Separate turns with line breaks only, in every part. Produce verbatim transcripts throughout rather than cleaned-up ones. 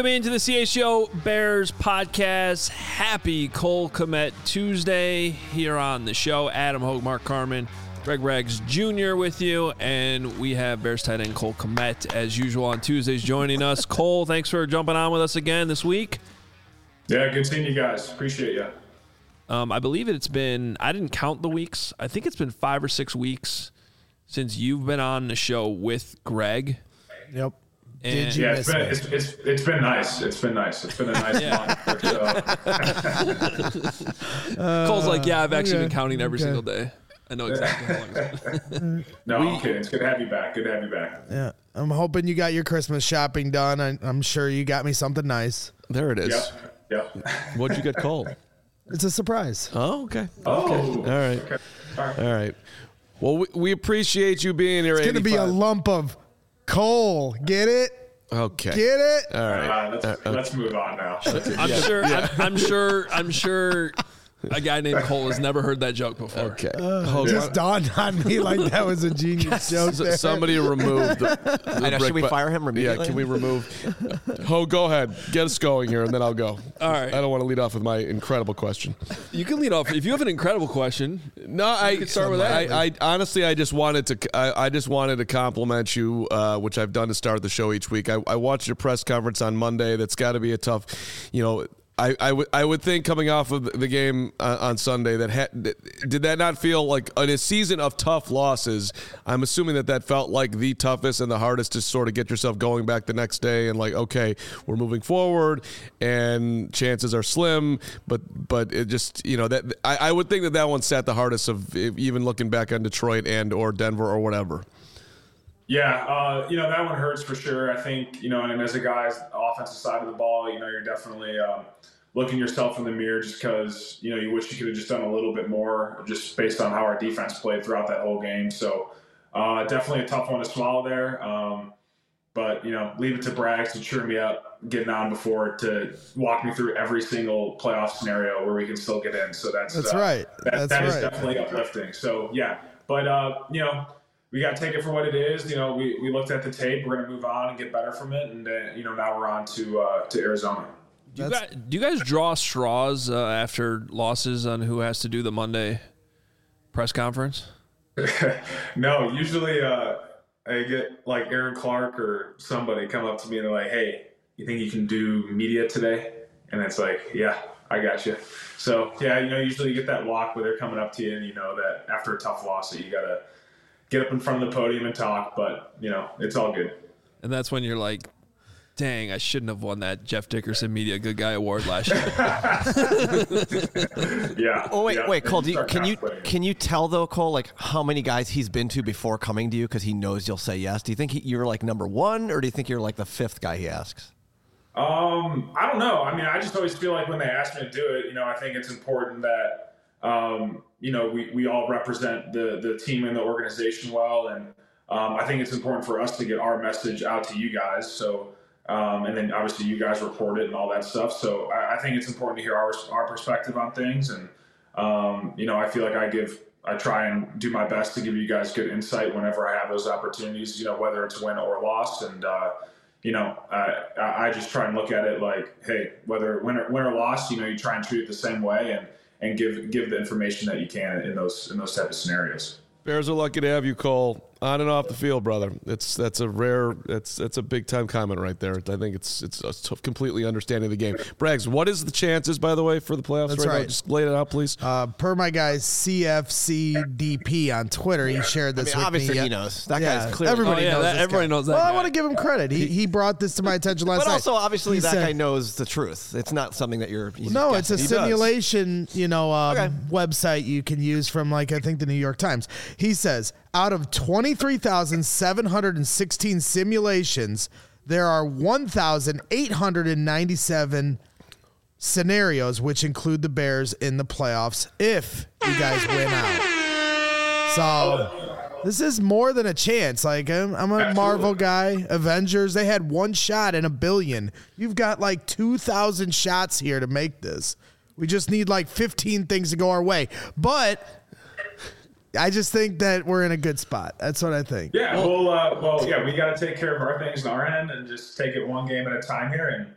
Welcome into the C H G O Bears podcast. Happy Cole Kmet Tuesday here on the show. Adam Hogue, Mark Carman, Greg Rags Junior with you, and we have Bears tight end Cole Kmet as usual on Tuesdays joining us. Cole, thanks for jumping on with us again this week.
Yeah, good seeing you guys. Appreciate you.
Um, I believe it's been, I didn't count the weeks. I think it's been five or six weeks since you've been on the show with Greg.
Yep.
And
Did you
yeah,
miss
it's been,
me?
it's, it's, it's been nice. It's been nice. It's been a nice
Yeah.
month. So.
Cole's like, yeah, I've actually
okay,
been counting every
okay.
single day. I know exactly how long it's been.
No, I'm kidding. It's good to have you back. Good to have you back.
Yeah. I'm hoping you got your Christmas shopping done. I, I'm sure you got me something nice.
There it is.
Yep. Yep.
What'd you get called?
It's a surprise.
Oh, okay.
Oh.
All right.
Okay. All right.
All right. Well, we, we appreciate you being here.
It's going to be a
eighty-five.
lump of coal. Get it?
Okay.
Get it?
All right.
Uh, let's,
Uh, okay.
let's move on now.
I'm sure. I'm, I'm sure. I'm sure. A guy named Cole has never heard that joke before.
Okay.
Uh,
Hold
just
on.
dawned on me like that was a genius joke. there.
S- Somebody remove the, the
I know,
brick,
should we
but-
fire him
Yeah,
immediately?
can we remove? Ho, go ahead. Get us going here, and then I'll go.
All right.
I don't want to lead off with my incredible question.
You can lead off if you have an incredible question.
No, I
could start with that.
I, I honestly, I just wanted to. I, I just wanted to compliment you, uh, which I've done to start the show each week. I, I watched your press conference on Monday. That's got to be a tough, you know. I, I would I would think coming off of the game uh, on Sunday that ha- did that not feel like in a season of tough losses? I'm assuming that that felt like the toughest and the hardest to sort of get yourself going back the next day and like, okay, we're moving forward and chances are slim, but but it just, you know, that I, I would think that that one sat the hardest of even looking back on Detroit and or Denver or whatever.
Yeah, uh, you know, that one hurts for sure. I think, you know, and as a guy, offensive side of the ball, you know, you're definitely um, looking yourself in the mirror just because, you know, you wish you could have just done a little bit more just based on how our defense played throughout that whole game. So uh, definitely a tough one to swallow there. Um, but, you know, leave it to Braggs to cheer me up getting on before to walk me through every single playoff scenario where we can still get in. So that's,
That's
uh,
right.
That,
That's
that is
right.
definitely uplifting. So, yeah. But, uh, you know, we got to take it for what it is. You know, we, we looked at the tape. We're going to move on and get better from it. And, uh, you know, now we're on to uh, to Arizona.
Do you, guys, do you guys draw straws uh, after losses on who has to do the Monday press conference?
No, usually uh, I get like Aaron Clark or somebody come up to me and they're like, hey, you think you can do media today? And it's like, yeah, I got you. So, yeah, you know, usually you get that walk where they're coming up to you and you know that after a tough loss that you got to get up in front of the podium and talk. But, you know, it's all good.
And that's when you're like, dang, I shouldn't have won that Jeff Dickerson Media Good Guy Award last year.
Yeah.
Oh wait,
yeah.
wait, Cole. Do you,
Start
can you
contemplating it.
can you tell though, Cole, like how many guys he's been to before coming to you because he knows you'll say yes? Do you think he, you're like number one, or do you think you're like the fifth guy he asks?
Um, I don't know. I mean, I just always feel like when they ask me to do it, you know, I think it's important that, um, you know, we, we all represent the, the team and the organization well. And um, I think it's important for us to get our message out to you guys. So, um, and then obviously you guys report it and all that stuff. So I, I think it's important to hear our, our perspective on things. And, um, you know, I feel like I give, I try and do my best to give you guys good insight whenever I have those opportunities, you know, whether it's win or loss. And, uh, you know, I, I just try and look at it like, hey, whether win or, win or loss, you know, you try and treat it the same way and, and give give the information that you can in those in those type of scenarios.
Bears are lucky to have you, Cole, on and off the field, brother. It's that's a rare, that's that's a big time comment right there. I think it's it's a t- completely understanding the game. Braggs, what is the chances, by the way, for the playoffs
That's
right, now?
right.
Just lay it out, please.
Uh, per my guy C F C D P on Twitter, he shared
I
this
mean,
with
obviously
me.
he
Yeah.
knows. That
Yeah,
guy's clearly.
everybody
Oh, yeah,
knows
that-
this
everybody
guy.
knows that
Well, I
guy.
want to give him credit. He he brought this to my attention last
But
night.
also, obviously,
He
that
said-
guy knows the truth. It's not something that you're. he's
No,
just
it's a
guessing. He does.
simulation, you know, um,
Okay.
website you can use from, like, I think the New York Times. He says, out of twenty-three thousand seven hundred sixteen simulations, there are one thousand eight hundred ninety-seven scenarios, which include the Bears in the playoffs if you guys win out. So this is more than a chance. Like, I'm, I'm a
Absolutely.
Marvel guy. Avengers, they had one shot in a billion. You've got like two thousand shots here to make this. We just need like fifteen things to go our way. But I just think that we're in a good spot. That's what I think.
Yeah, well, uh, well, yeah, we got to take care of our things on our end and just take it one game at a time here. And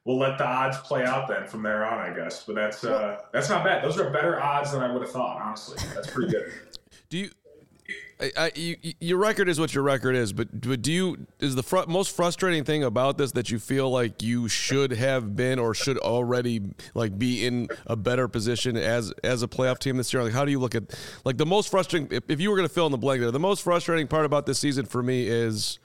we'll let the odds play out then from there on, I guess. But that's uh, that's not bad. Those are better odds than I would have thought, honestly. That's pretty good.
Do you? I, I, you, your record is what your record is, but, but do you is the fr- most frustrating thing about this that you feel like you should have been or should already like be in a better position as as a playoff team this year? Like, how do you look at like the most frustrating? If, if you were going to fill in the blank there, the most frustrating part about this season for me is.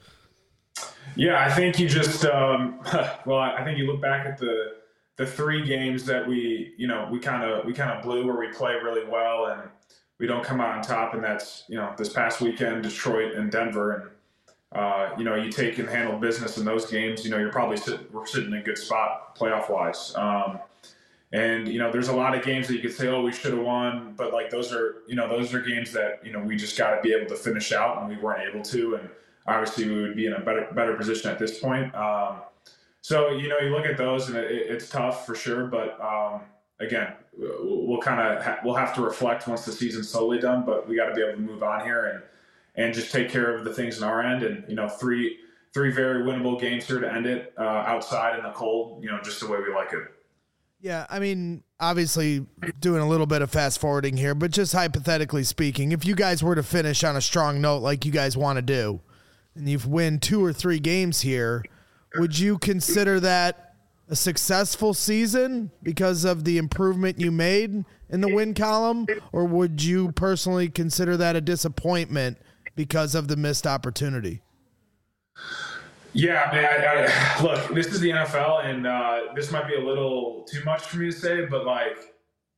Yeah, I think you just um, well, I think you look back at the the three games that we you know we kind of we kind of blew where we play really well and we don't come out on top, and that's, you know, this past weekend, Detroit and Denver, and, uh, you know, you take and handle business in those games, you know, you're probably sitting, we're sitting in a good spot playoff-wise. Um, and, you know, there's a lot of games that you could say, oh, we should have won, but, like, those are, you know, those are games that, you know, we just got to be able to finish out, and we weren't able to, and obviously we would be in a better better position at this point. Um, so, you know, you look at those, and it, it's tough for sure, but, um, again, we'll kind of ha- we'll have to reflect once the season's totally done, but we got to be able to move on here and and just take care of the things on our end. And, you know, three three very winnable games here to end it uh, outside in the cold, you know, just the way we like it.
Yeah, I mean, obviously doing a little bit of fast forwarding here, but just hypothetically speaking, if you guys were to finish on a strong note like you guys want to do, and you've win two or three games here, would you consider that a successful season because of the improvement you made in the win column, or would you personally consider that a disappointment because of the missed opportunity?
Yeah, man. I, I, look, this is the N F L, and uh, this might be a little too much for me to say, but like,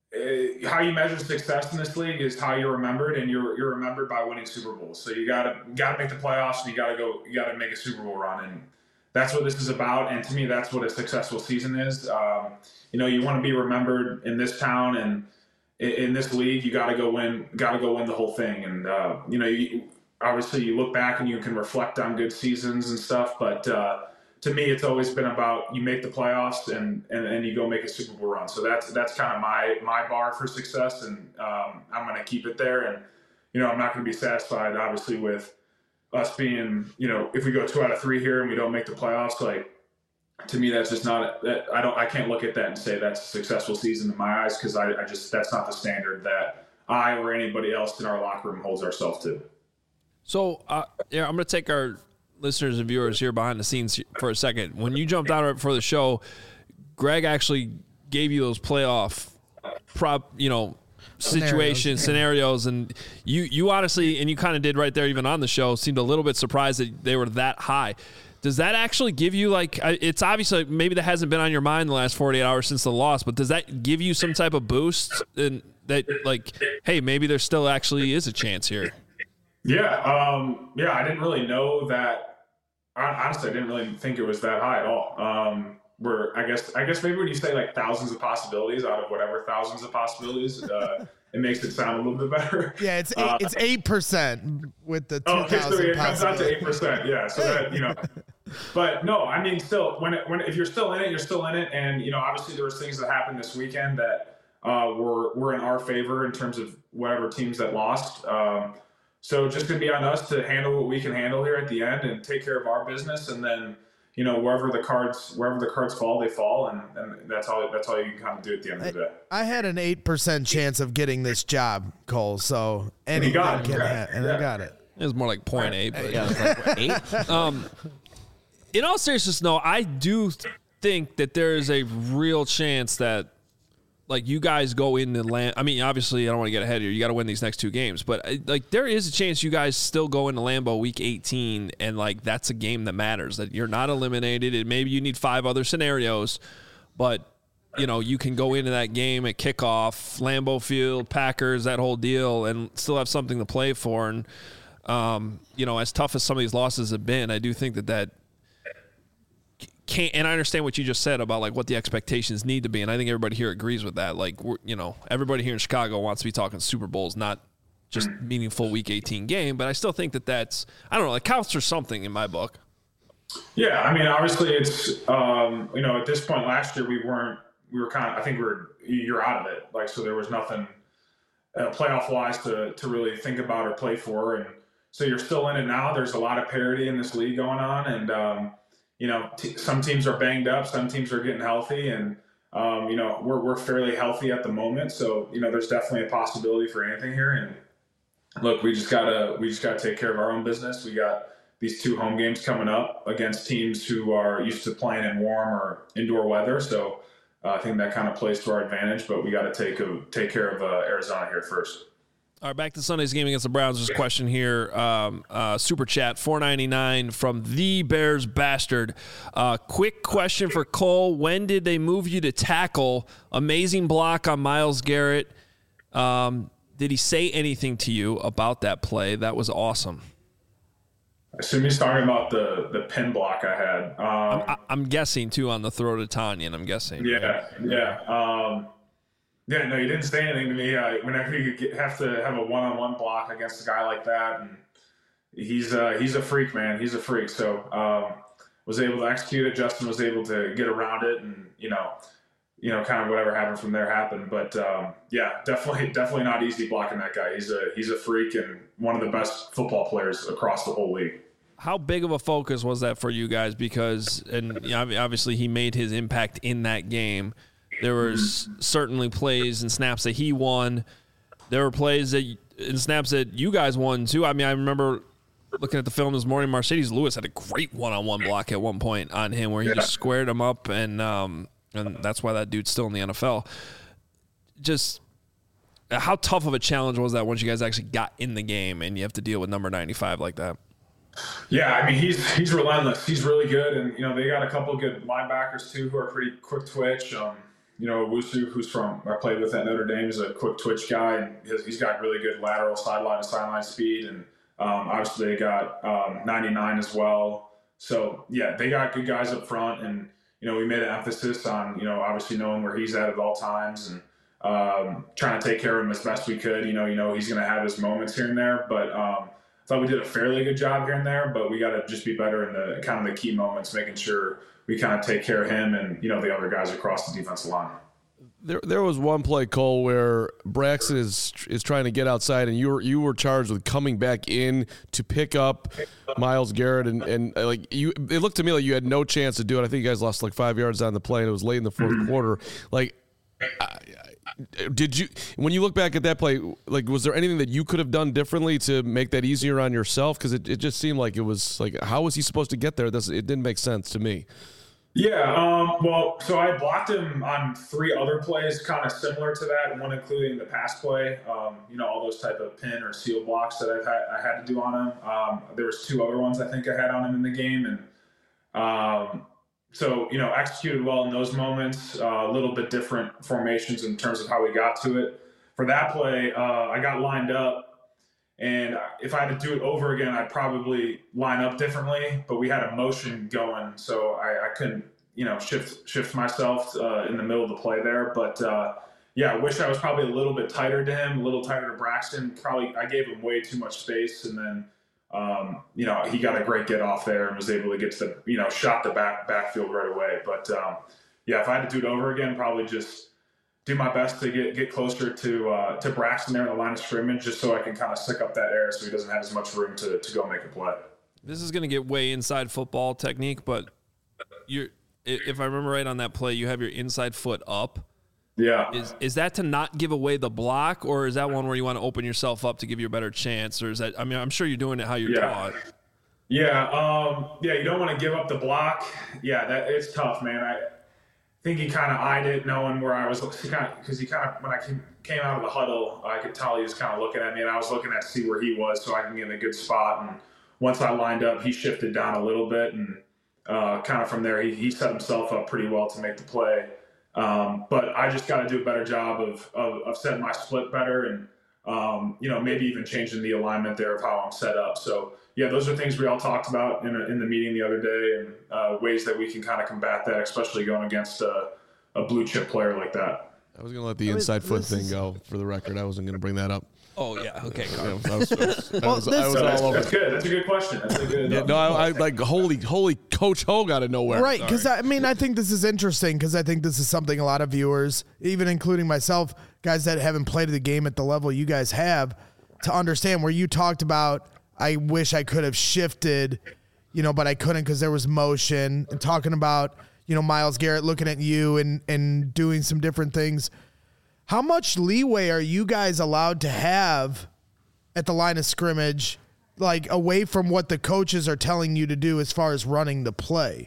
uh, how you measure success in this league is how you're remembered, and you're you're remembered by winning Super Bowls. So you gotta you gotta make the playoffs, and you gotta go, you gotta make a Super Bowl run, and that's what this is about, and to me, that's what a successful season is. Um, you know, you want to be remembered in this town and in, in this league. You got to go win. Got to go win the whole thing. And uh, you know, you, obviously, you look back and you can reflect on good seasons and stuff. But uh, to me, it's always been about you make the playoffs and and, and you go make a Super Bowl run. So that's that's kind of my my bar for success, and um, I'm going to keep it there. And you know, I'm not going to be satisfied, obviously, with us being, you know, if we go two out of three here and we don't make the playoffs, like, to me, that's just not, that I don't, I can't look at that and say that's a successful season in my eyes. Cause I, I just, that's not the standard that I or anybody else in our locker room holds ourselves to.
So, uh, yeah, I'm going to take our listeners and viewers here behind the scenes for a second. When you jumped out right before the show, Greg actually gave you those playoff prop, you know, situations, scenarios, and you you honestly, and you kind of did right there even on the show, seemed a little bit surprised that they were that high. Does that actually give you, like, it's obviously maybe that hasn't been on your mind the last forty-eight hours since the loss, but does that give you some type of boost and that, like, hey, maybe there still actually is a chance here?
Yeah, um, yeah, I didn't really know that. Honestly, I didn't really think it was that high at all. Um, where I guess I guess maybe when you say like thousands of possibilities out of whatever thousands of possibilities, uh, it makes it sound a little bit better.
Yeah, it's eight, uh, it's eight percent with the two thousand.
Oh, okay, so it comes out to eight percent. Yeah, so that, you know. But no, I mean, still, when it, when if you're still in it, you're still in it, and you know, obviously there was things that happened this weekend that uh, were were in our favor in terms of whatever teams that lost. Um, so just gonna be on us to handle what we can handle here at the end and take care of our business, and then, you know, wherever the cards wherever the cards fall, they fall, and, and that's all that's all you can kind of do at the end of the day.
I had an eight percent chance of getting this job, Cole. So anything
got it,
can
yeah.
happen, and
Yeah.
I got it.
It was more like point eight, but
Yeah, it's like eight.
Um, in all seriousness, no, I do think that there is a real chance that, like, you guys go in the land. I mean, obviously, I don't want to get ahead here. You got to win these next two games, but like, there is a chance you guys still go into Lambeau Week eighteen, and like, that's a game that matters. That you're not eliminated, and maybe you need five other scenarios, but you know, you can go into that game at kickoff, Lambeau Field, Packers, that whole deal, and still have something to play for. And um, you know, as tough as some of these losses have been, I do think that that. Can't, and I understand what you just said about like what the expectations need to be, and I think everybody here agrees with that. Like, we're, you know, everybody here in Chicago wants to be talking Super Bowls, not just meaningful Week eighteen game. But I still think that that's, I don't know, it counts for something in my book.
Yeah, I mean, obviously, it's um, you know, at this point last year we weren't, we were kind of, I think we we're you're out of it, like, so there was nothing uh, playoff wise to to really think about or play for, and so you're still in it now. There's a lot of parity in this league going on, and um, you know, t- some teams are banged up, some teams are getting healthy, and um, you know, we're we're fairly healthy at the moment. So you know, there's definitely a possibility for anything here. And look, we just gotta we just gotta take care of our own business. We got these two home games coming up against teams who are used to playing in warm or indoor weather. So uh, I think that kind of plays to our advantage. But we got to take a, take care of uh, Arizona here first.
All right, back to Sunday's game against the Browns. There's a question here. Um, uh, Super Chat, four ninety-nine from the Bears Bastard. Uh, quick question for Cole. When did they move you to tackle? Amazing block on Myles Garrett. Um, did he say anything to you about that play? That was awesome.
I assume he's talking about the, the pin block I had. Um,
I'm, I'm guessing, too, on the throw to Tanyan, I'm guessing.
Yeah, yeah. Um, Yeah, no, he didn't say anything to me. Uh, whenever you get, have to have a one-on-one block against a guy like that, and he's uh, he's a freak, man. He's a freak. So um, was able to execute it. Justin was able to get around it, and you know, you know, kind of whatever happened from there happened. But um, yeah, definitely, definitely not easy blocking that guy. He's a he's a freak and one of the best football players across the whole league.
How big of a focus was that for you guys? Because and you know, obviously he made his impact in that game. There was certainly plays and snaps that he won. There were plays that and snaps that you guys won too. I mean, I remember looking at the film this morning. Mercedes Lewis had a great one-on-one block at one point on him where he yeah. just squared him up, and um, and that's why that dude's still in the N F L. Just how tough of a challenge was that once you guys actually got in the game and you have to deal with number ninety-five like that?
Yeah, I mean, he's he's relentless. He's really good, and you know they got a couple of good linebackers too who are pretty quick twitch. Um, You know, Wusu, who's from, I played with at Notre Dame, is a quick twitch guy, and his, he's got really good lateral sideline to sideline speed. And um, obviously they got um, ninety-nine as well. So, yeah, they got good guys up front. And, you know, we made an emphasis on, you know, obviously knowing where he's at at all times and um, trying to take care of him as best we could. You know, you know he's going to have his moments here and there. But um, I thought we did a fairly good job here and there. But we got to just be better in the kind of the key moments, making sure we kind of take care of him and, you know, the other guys across the defensive line.
There, there was one play, Cole, where Braxton is is trying to get outside, and you were you were charged with coming back in to pick up Myles Garrett, and, and like you, it looked to me like you had no chance to do it. I think you guys lost like five yards on the play, and it was late in the fourth mm-hmm. quarter. Like, I, I, did you when you look back at that play, like was there anything that you could have done differently to make that easier on yourself? Because it, it just seemed like it was like, how was he supposed to get there? This, it didn't make sense to me.
Yeah, um, well, so I blocked him on three other plays kind of similar to that, one including the pass play, um, you know, all those type of pin or seal blocks that I've had, I had to do on him. Um, there was two other ones I think I had on him in the game. And um, so, you know, executed well in those moments, uh, a little bit different formations in terms of how we got to it. For that play, uh, I got lined up. And if I had to do it over again, I'd probably line up differently. But we had a motion going, so I, I couldn't, you know, shift shift myself uh, in the middle of the play there. But uh, yeah, I wish I was probably a little bit tighter to him, a little tighter to Braxton. Probably I gave him way too much space, and then um, you know he got a great get off there and was able to get to the you know shot the back backfield right away. But um, yeah, if I had to do it over again, probably just do my best to get get closer to uh, to Braxton there in the line of scrimmage, just so I can kind of stick up that air so he doesn't have as much room to, to go make a play.
This is going to get way inside football technique, but you're if I remember right on that play, you have your inside foot up.
Yeah.
Is is that to not give away the block, or is that one where you want to open yourself up to give you a better chance, or is that? I mean, I'm sure you're doing it how you're
yeah.
taught.
Yeah. Um, yeah. You don't want to give up the block. Yeah. That it's tough, man. I. I think he kind of eyed it, knowing where I was, because he kind of, when I came, came out of the huddle, I could tell he was kind of looking at me, and I was looking at to see where he was so I can get in a good spot. And once I lined up, he shifted down a little bit, and uh, kind of from there, he, he set himself up pretty well to make the play. Um, but I just got to do a better job of, of, of setting my split better, and um, you know, maybe even changing the alignment there of how I'm set up. So. Yeah, those are things we all talked about in, a, in the meeting the other day, and uh, ways that we can kind of combat that, especially going against a, a blue chip player like that.
I was going to let the inside foot thing go for the record. I wasn't going to bring that up.
Oh, yeah. Okay.
Yeah, I was, I was, I
well,
was,
this,
I was
so that's,
all over.
That's good. That's a good question. That's a good.
Yeah, no, I, I like holy, holy Coach Hogue out of nowhere.
Right, because I mean, I think this is interesting because I think this is something a lot of viewers, even including myself, guys that haven't played the game at the level you guys have, to understand. Where you talked about, I wish I could have shifted, you know, but I couldn't because there was motion, and talking about, you know, Myles Garrett looking at you and, and doing some different things. How much leeway are you guys allowed to have at the line of scrimmage, like away from what the coaches are telling you to do as far as running the play?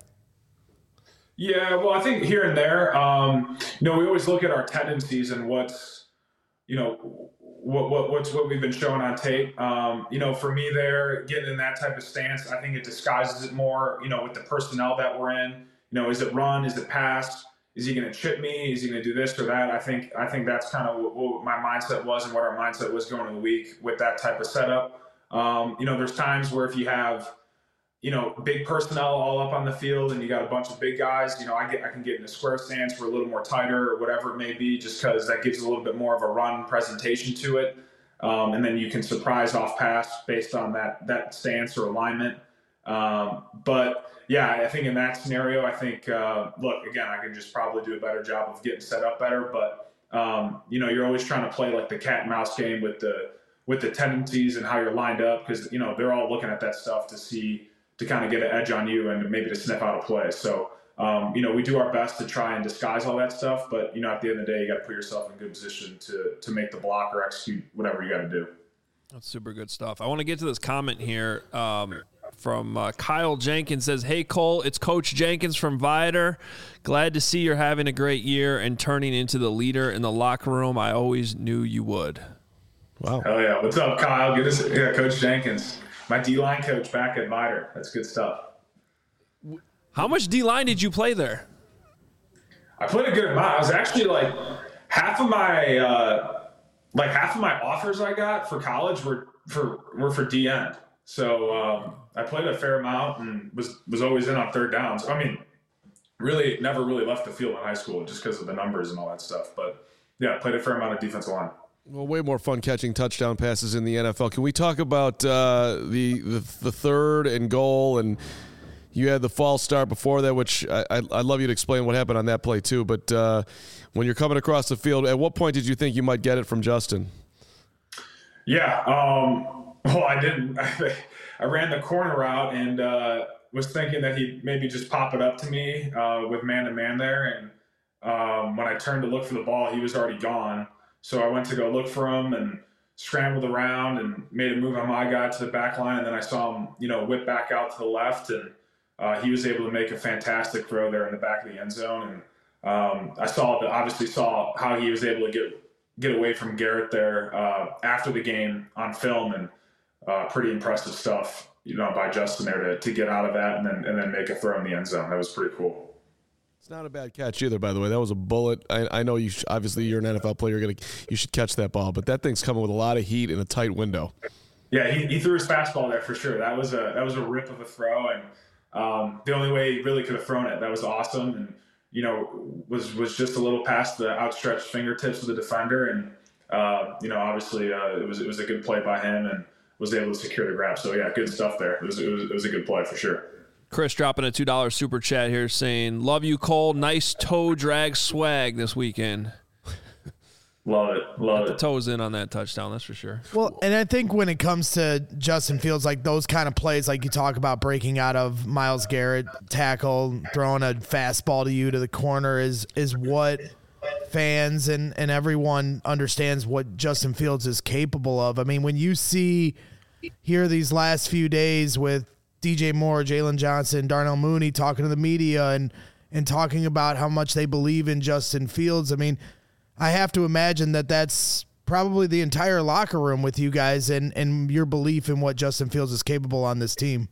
Yeah, well, I think here and there, um, you know, we always look at our tendencies and what's, you know, what what what's what we've been showing on tape. Um, you know, for me, there getting in that type of stance, I think it disguises it more. You know, with the personnel that we're in. You know, is it run? Is it pass? Is he going to chip me? Is he going to do this or that? I think I think that's kind of what, what my mindset was and what our mindset was going into the week with that type of setup. Um, you know, there's times where if you have, you know, big personnel all up on the field and you got a bunch of big guys, you know, I get I can get in a square stance. We're a little more tighter or whatever it may be, just because that gives a little bit more of a run presentation to it. Um, and then you can surprise off pass based on that that stance or alignment. Um, but yeah, I think in that scenario, I think, uh, look, again, I can just probably do a better job of getting set up better, but, um, you know, you're always trying to play like the cat and mouse game with the, with the tendencies and how you're lined up. Cause you know, they're all looking at that stuff to see, to kind of get an edge on you and maybe to sniff out a play. So, um, you know, we do our best to try and disguise all that stuff, but you know, at the end of the day, you got to put yourself in a good position to, to make the block or execute whatever you got to do.
That's super good stuff. I want to get to this comment here. Um, From uh, Kyle Jenkins says, "Hey Cole, it's Coach Jenkins from Viator. Glad to see you're having a great year and turning into the leader in the locker room. I always knew you would."
Wow. Hell yeah. What's up, Kyle? Good to see yeah, Coach Jenkins, my D-line coach back at Viator. That's good stuff.
How much D-line did you play there?
I played a good amount. I was actually like half of my uh, like half of my offers I got for college were for were for D end. So um, I played a fair amount and was, was always in on third downs. I mean, really never really left the field in high school just because of the numbers and all that stuff. But, yeah, played a fair amount of defensive line.
Well, way more fun catching touchdown passes in the N F L. Can we talk about uh, the, the the third and goal? And you had the false start before that, which I, I, I'd love you to explain what happened on that play too. But uh, when you're coming across the field, at what point did you think you might get it from Justin?
Yeah, um – well, I didn't. I ran the corner route and uh, was thinking that he'd maybe just pop it up to me uh, with man-to-man there. And um, when I turned to look for the ball, he was already gone. So I went to go look for him and scrambled around and made a move on my guy to the back line. And then I saw him, you know, whip back out to the left. And uh, he was able to make a fantastic throw there in the back of the end zone. And um, I saw, the, obviously saw how he was able to get get away from Garrett there uh, after the game on film. And Uh, pretty impressive stuff, you know, by Justin there to, to get out of that and then and then make a throw in the end zone. That was pretty cool.
It's not a bad catch either, by the way. That was a bullet. I, I know you. Sh- obviously, you're an N F L player. You're gonna you should catch that ball, but that thing's coming with a lot of heat in a tight window.
Yeah, he, he threw his fastball there for sure. That was a that was a rip of a throw, and um, the only way he really could have thrown it. That was awesome, and you know was was just a little past the outstretched fingertips of the defender, and uh, you know obviously uh, it was it was a good play by him and was able to secure the grab. So, yeah, good stuff there. It was, it was, it was a good play for sure.
Chris dropping a two dollar super chat here saying, "Love you, Cole. Nice toe drag swag this weekend."
Love it. Love
Got
it.
the toes in on that touchdown, that's for sure.
Well, and I think when it comes to Justin Fields, like those kind of plays, like you talk about breaking out of Myles Garrett tackle, throwing a fastball to you to the corner is is what fans and, and everyone understands what Justin Fields is capable of. I mean, when you see here these last few days with D J Moore, Jalen Johnson, Darnell Mooney talking to the media and, and talking about how much they believe in Justin Fields, I mean, I have to imagine that that's probably the entire locker room with you guys and, and your belief in what Justin Fields is capable on this team.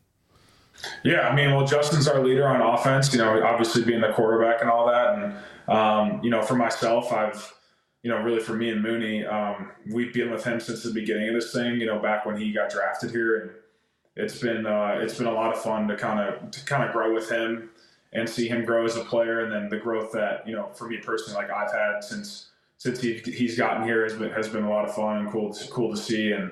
Yeah, I mean, well, Justin's our leader on offense, you know, obviously being the quarterback and all that. And, um, you know, for myself, I've, you know, really for me and Mooney, um, we've been with him since the beginning of this thing, you know, back when he got drafted here. And it's been, uh, it's been a lot of fun to kind of, to kind of grow with him and see him grow as a player. And then the growth that, you know, for me personally, like I've had since, since he, he's gotten here has been, has been a lot of fun and cool, cool to see. And,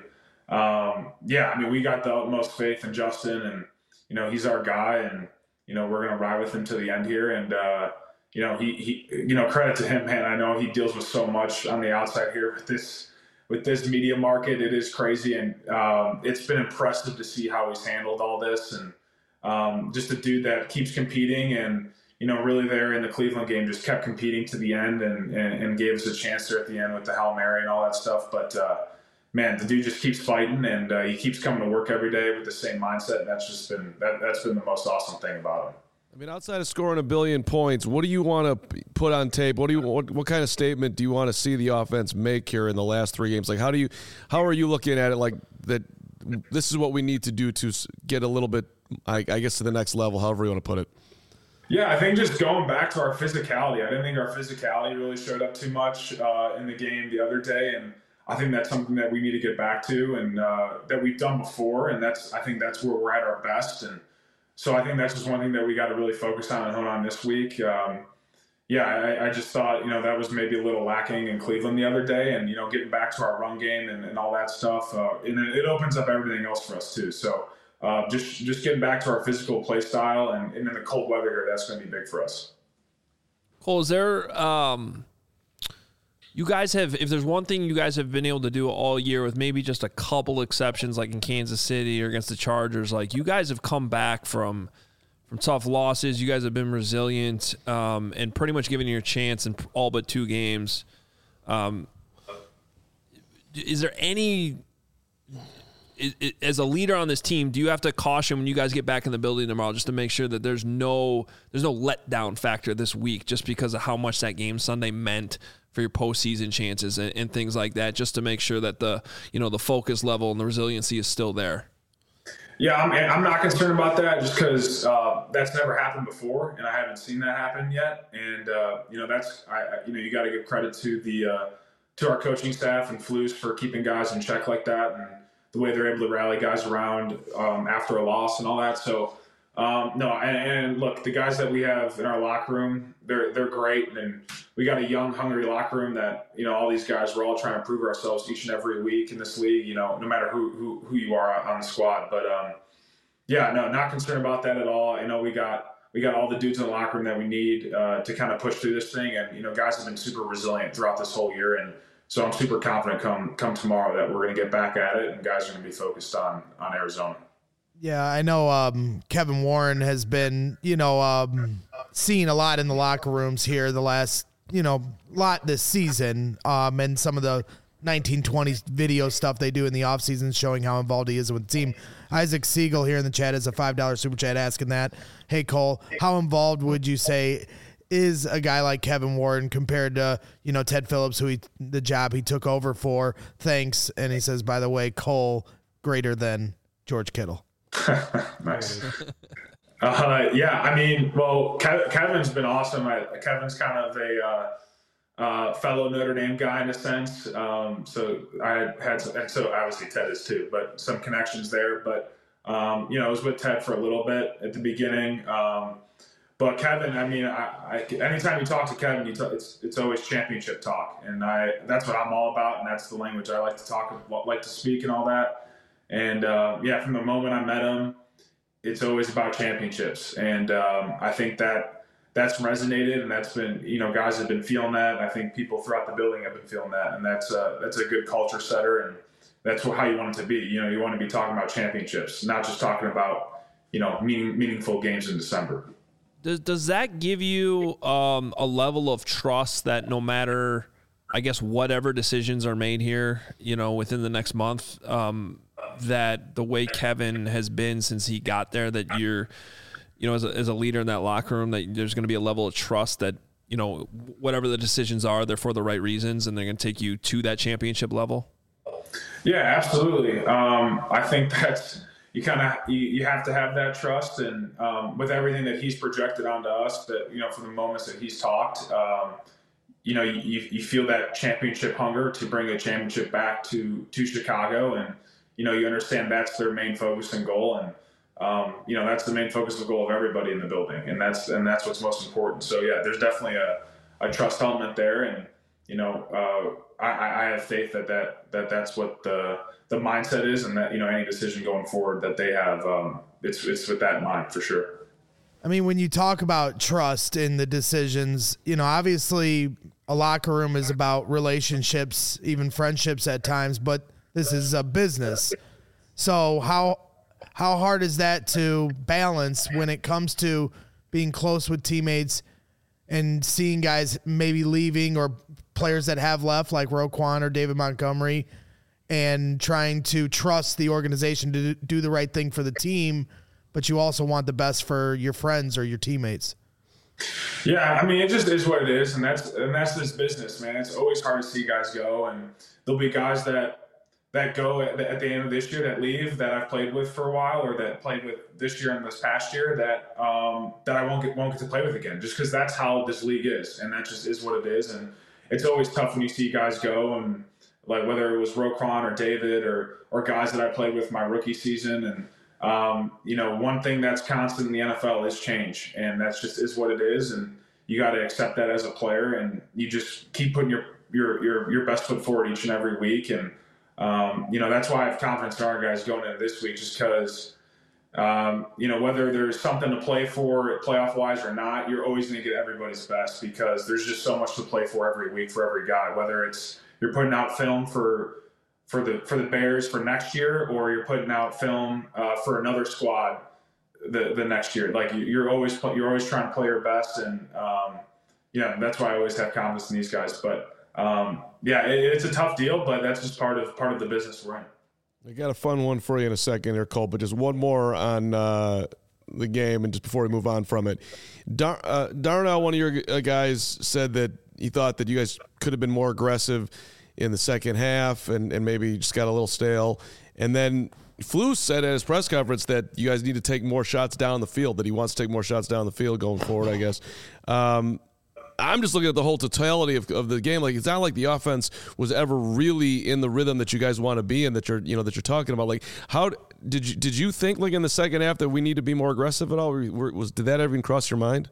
um, yeah, I mean, we got the utmost faith in Justin and, you know, he's our guy and, you know, we're going to ride with him to the end here. And, uh, you know, he, he, you know, credit to him, man. I know he deals with so much on the outside here with this, with this media market. It is crazy. And um, it's been impressive to see how he's handled all this. And, um, just a dude that keeps competing and, you know, really there in the Cleveland game, just kept competing to the end and, and, and gave us a chance there at the end with the Hail Mary and all that stuff. But, uh, man, the dude just keeps fighting and uh, he keeps coming to work every day with the same mindset. And that's just been, that, that's been the most awesome thing about him.
I mean, outside of scoring a billion points, what do you want to put on tape? What do you what, what kind of statement do you want to see the offense make here in the last three games? Like, how do you, how are you looking at it? Like that, this is what we need to do to get a little bit, I, I guess, to the next level. However you want to put it.
Yeah, I think just going back to our physicality. I didn't think our physicality really showed up too much uh, in the game the other day, and I think that's something that we need to get back to, and uh, that we've done before. And that's, I think, that's where we're at our best. And so I think that's just one thing that we got to really focus on and hone on this week. Um, yeah, I, I just thought, you know, that was maybe a little lacking in Cleveland the other day, and, you know, getting back to our run game and, and all that stuff. Uh, and it opens up everything else for us too. So uh, just, just getting back to our physical play style, and, and in the cold weather here, that's going to be big for us.
Cole, is there, um, you guys have, if there's one thing you guys have been able to do all year with maybe just a couple exceptions, like in Kansas City or against the Chargers, like you guys have come back from from tough losses. You guys have been resilient um, and pretty much given you a chance in all but two games. Um, is there any, is, is, as a leader on this team, do you have to caution when you guys get back in the building tomorrow just to make sure that there's no there's no letdown factor this week just because of how much that game Sunday meant for your postseason chances and, and things like that, just to make sure that the, you know, the focus level and the resiliency is still there?
Yeah, I'm, I'm not concerned about that just because uh, that's never happened before, and I haven't seen that happen yet. And uh, you know, that's I, I you know you got to give credit to the uh, to our coaching staff and Flus for keeping guys in check like that, and the way they're able to rally guys around um, after a loss and all that. So. Um, no, and, and look, the guys that we have in our locker room, they're they're great, and we got a young, hungry locker room that, you know, all these guys, we're all trying to prove ourselves each and every week in this league, you know, no matter who who, who you are on the squad. But um, yeah, no, not concerned about that at all. You know, we got we got all the dudes in the locker room that we need uh, to kind of push through this thing, and you know, guys have been super resilient throughout this whole year, and so I'm super confident come come tomorrow that we're going to get back at it, and guys are going to be focused on on Arizona.
Yeah, I know um, Kevin Warren has been, you know, um, seen a lot in the locker rooms here the last, you know, lot this season, um, and some of the nineteen twenties video stuff they do in the offseason showing how involved he is with the team. Isaac Siegel here in the chat is a five dollar super chat asking that. Hey, Cole, how involved would you say is a guy like Kevin Warren compared to, you know, Ted Phillips, who he, the job he took over for? Thanks. And he says, by the way, Cole greater than George Kittle.
Nice. Uh, yeah, I mean, well, Kev- Kevin's been awesome. I, Kevin's kind of a uh, uh, fellow Notre Dame guy in a sense. Um, so I had, some, and so obviously Ted is too, but some connections there. But um, you know, I was with Ted for a little bit at the beginning. Um, but Kevin, I mean, I, I, anytime you talk to Kevin, you talk, it's it's always championship talk, and I that's what I'm all about, and that's the language I like to talk, like to speak, and all that. And, uh, yeah, from the moment I met him, it's always about championships. And um, I think that that's resonated, and that's been, you know, guys have been feeling that. And I think people throughout the building have been feeling that. And that's, uh, that's a good culture setter, and that's how you want it to be. You know, you want to be talking about championships, not just talking about, you know, meaning, meaningful games in December.
Does, does that give you um, a level of trust that no matter, I guess, whatever decisions are made here, you know, within the next month, um, that the way Kevin has been since he got there, that you're, you know, as a, as a leader in that locker room, that there's going to be a level of trust that, you know, whatever the decisions are, they're for the right reasons and they're going to take you to that championship level?
Yeah, absolutely. Um, I think that's, you kind of, you, you have to have that trust. And um, with everything that he's projected onto us, that, you know, from the moments that he's talked, um, you know, you, you feel that championship hunger to bring a championship back to, to Chicago. And, you know, you understand that's their main focus and goal. And, um, you know, that's the main focus and goal of everybody in the building. And that's, and that's what's most important. So yeah, there's definitely a, a trust element there. And, you know, uh, I, I have faith that, that, that that's what the, the mindset is, and that, you know, any decision going forward that they have, um, it's, it's with that in mind for sure.
I mean, when you talk about trust in the decisions, you know, obviously a locker room is about relationships, even friendships at times, but this is a business. So how how hard is that to balance when it comes to being close with teammates and seeing guys maybe leaving or players that have left like Roquan or David Montgomery and trying to trust the organization to do the right thing for the team, but you also want the best for your friends or your teammates?
Yeah, I mean, it just is what it is, and that's and that's this business, man. It's always hard to see guys go, and there'll be guys that that go at the, at the end of this year that leave that I've played with for a while, or that played with this year and this past year that um, that I won't get won't get to play with again, just because that's how this league is, and that just is what it is. And it's always tough when you see guys go, and like whether it was Roquan or David or or guys that I played with my rookie season. And um, you know, one thing that's constant in the N F L is change, and that's just is what it is. And you got to accept that as a player, and you just keep putting your your your your best foot forward each and every week. And um, you know, that's why I have confidence in our guys going into this week, just because um, you know, whether there's something to play for playoff wise or not, you're always going to get everybody's best, because there's just so much to play for every week for every guy, whether it's you're putting out film for for the for the Bears for next year, or you're putting out film uh, for another squad the the next year. Like you're always you're always trying to play your best, and um, yeah, that's why I always have confidence in these guys. But um, yeah, it, it's a tough deal, but that's just part of part of the business we're in.
I got a fun one for you in a second here, Cole, but just one more on uh, the game, and just before we move on from it, Dar- uh, Darnell, one of your guys, said that he thought that you guys could have been more aggressive in the second half, and, and maybe just got a little stale. And then Flus said at his press conference that you guys need to take more shots down the field, that he wants to take more shots down the field going forward, I guess. Um, I'm just looking at the whole totality of, of the game. Like, it's not like the offense was ever really in the rhythm that you guys want to be in, that you're, you know, that you're talking about. Like, how did you, did you think, like, in the second half that we need to be more aggressive at all? Or was, did that ever even cross your mind?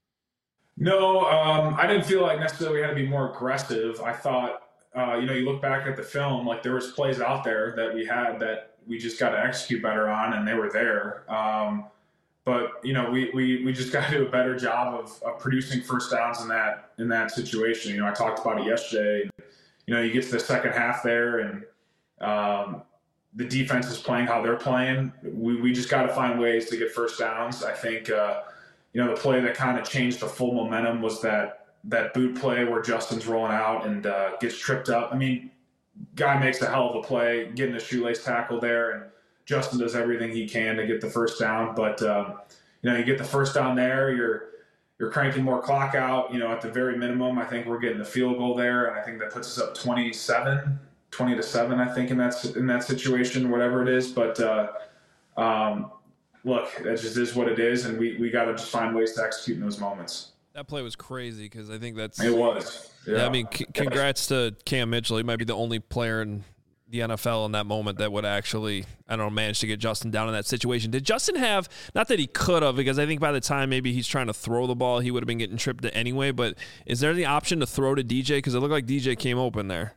No, um, I didn't feel like necessarily we had to be more aggressive. I thought, uh, you know, you look back at the film, like there was plays out there that we had that we just got to execute better on, and they were there. Um, but you know, we, we, we just got to do a better job of, of producing first downs in that in that situation. You know, I talked about it yesterday. You know, you get to the second half there, and um, the defense is playing how they're playing. We we just got to find ways to get first downs. I think, uh, you know, the play that kind of changed the full momentum was that that boot play where Justin's rolling out and uh, gets tripped up. I mean, guy makes a hell of a play, getting a shoelace tackle there, and Justin does everything he can to get the first down. But um, you know, you get the first down there, you're you're cranking more clock out. You know, at the very minimum, I think we're getting the field goal there, and I think that puts us up twenty-seven, twenty to seven. I think in that in that situation, whatever it is. But uh, um, look, that just is what it is, and we we got to just find ways to execute in those moments.
That play was crazy, because I think that's
it was. Yeah,
yeah I mean, c- congrats to Cam Mitchell. He might be the only player in the N F L in that moment that would actually, I don't know, manage to get Justin down in that situation. Did Justin have, not that he could have, because I think by the time maybe he's trying to throw the ball, he would have been getting tripped anyway, but is there the option to throw to D J? Because it looked like D J came open there.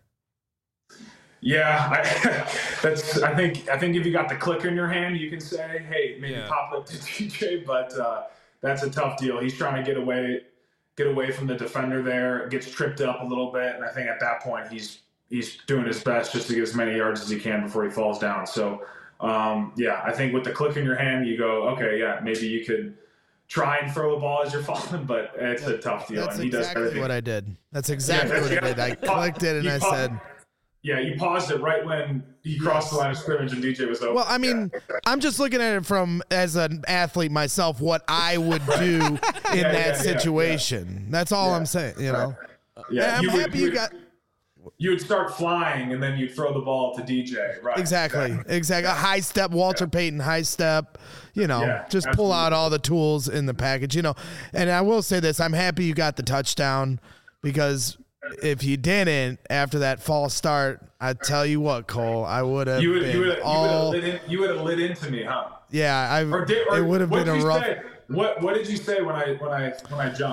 Yeah, I, that's. I think. I think if you got the clicker in your hand, you can say, "Hey, maybe
yeah.
pop it to D J." But uh, that's a tough deal. He's trying to get away, get away from the defender there. Gets tripped up a little bit, and I think at that point he's he's doing his best just to get as many yards as he can before he falls down. So, um, yeah, I think with the click in your hand, you go, okay, yeah, maybe you could try and throw the ball as you're falling, but it's a tough deal.
That's
and he
exactly
does
what I did. That's exactly
yeah,
what I did. I clicked it and
you
I
paused,
said,
yeah, you paused it right when he crossed the line of scrimmage and D J was open.
well, I mean, yeah. I'm just looking at it from, as an athlete myself, what I would do in
yeah,
that
yeah,
situation.
Yeah.
That's all
yeah.
I'm saying, you know?
Yeah,
I'm
you
happy
would,
you
would,
got...
You would start flying, and then you'd throw the ball to D J, right?
Exactly,
exactly.
exactly. A high step, Walter yeah. Payton, high step, you know,
yeah,
just
absolutely.
pull out all the tools in the package, you know. And I will say this, I'm happy you got the touchdown, because if you didn't, after that false start, I tell you what, Cole, I would have
you would,
been
you would,
all...
You would, have lit in, you would have lit into me, huh?
Yeah, I.
Or did, or
it would have been a rough...
Say? What What did you say when I when I when I jumped?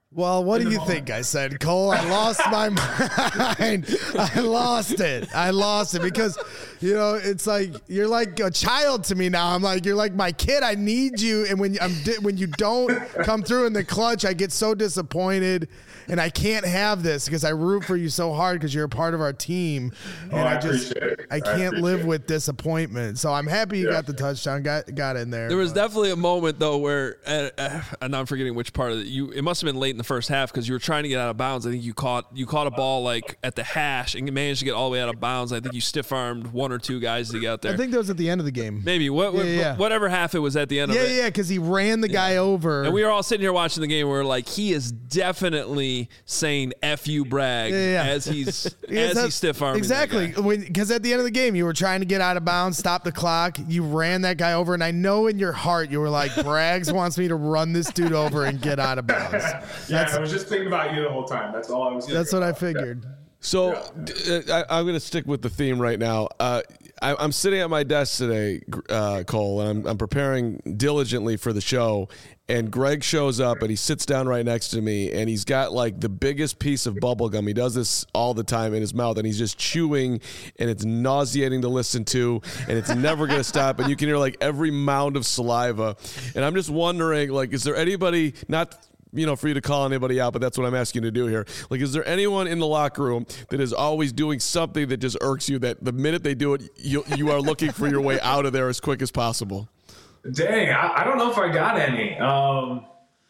Well, what do you think I said, Cole? I lost my mind. I lost it. I lost it because, you know, it's like you're like a child to me now. I'm like you're like my kid. I need you, and when I'm di- when you don't come through in the clutch, I get so disappointed, and I can't have this because I root for you so hard because you're a part of our team, and
oh,
I,
I
just
it.
I can't
I
live
it.
with disappointment. So I'm happy you
yeah.
got the touchdown, got got in there.
There was
but.
definitely a moment though where, uh, uh, and I'm forgetting which part of it. You it must have been late in the first half because you were trying to get out of bounds. I think you caught you caught a ball like at the hash and you managed to get all the way out of bounds. I think you stiff armed one or two guys to get out there.
I think that was at the end of the game.
Maybe what, what
Yeah, yeah.
whatever half it was at the end
Yeah,
of it.
yeah, because he ran the guy over.
And we were all sitting here watching the game. We we're like, he is definitely saying "F you, Bragg"
Yeah, yeah.
as he's
Yeah,
as
that's-
he's stiff arming.
Exactly, because at the end of the game, you were trying to get out of bounds, stop the clock. You ran that guy over, and I know in your heart you were like, "Braggs wants me to run this dude over and get out of bounds."
yeah, I was just thinking about you the whole time. That's all I was.
That's what I
about.
figured.
So uh, I, I'm going to stick with the theme right now. Uh, I, I'm sitting at my desk today, uh, Cole, and I'm, I'm preparing diligently for the show. And Greg shows up and he sits down right next to me and he's got like the biggest piece of bubble gum. He does this all the time in his mouth and he's just chewing and it's nauseating to listen to and it's never going to stop. And you can hear like every mound of saliva. And I'm just wondering, like, is there anybody, not you know, for you to call anybody out, but that's what I'm asking you to do here. Like, is there anyone in the locker room that is always doing something that just irks you that the minute they do it, you you are looking for your way out of there as quick as possible?
Dang, I, I don't know if I got any. Um,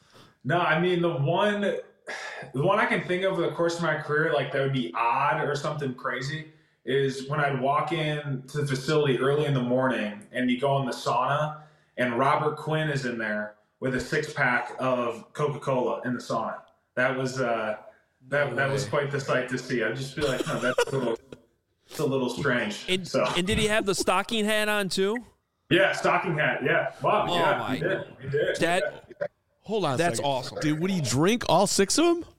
no, I mean, the one, the one I can think of over the course of my career, like that would be odd or something crazy, is when I'd walk in to the facility early in the morning and you go in the sauna and Robert Quinn is in there with a six pack of Coca-Cola in the sauna. That was uh, that that was quite the sight to see. I'd just be like, no, that's a little, it's a little strange.
And,
so.
and did he have the stocking hat on too?
Yeah, stocking hat. Yeah, wow.
Oh
yeah,
my
he did. He did.
That
yeah.
Hold on, a
That's
second.
awesome.
Dude, would he drink all six of them?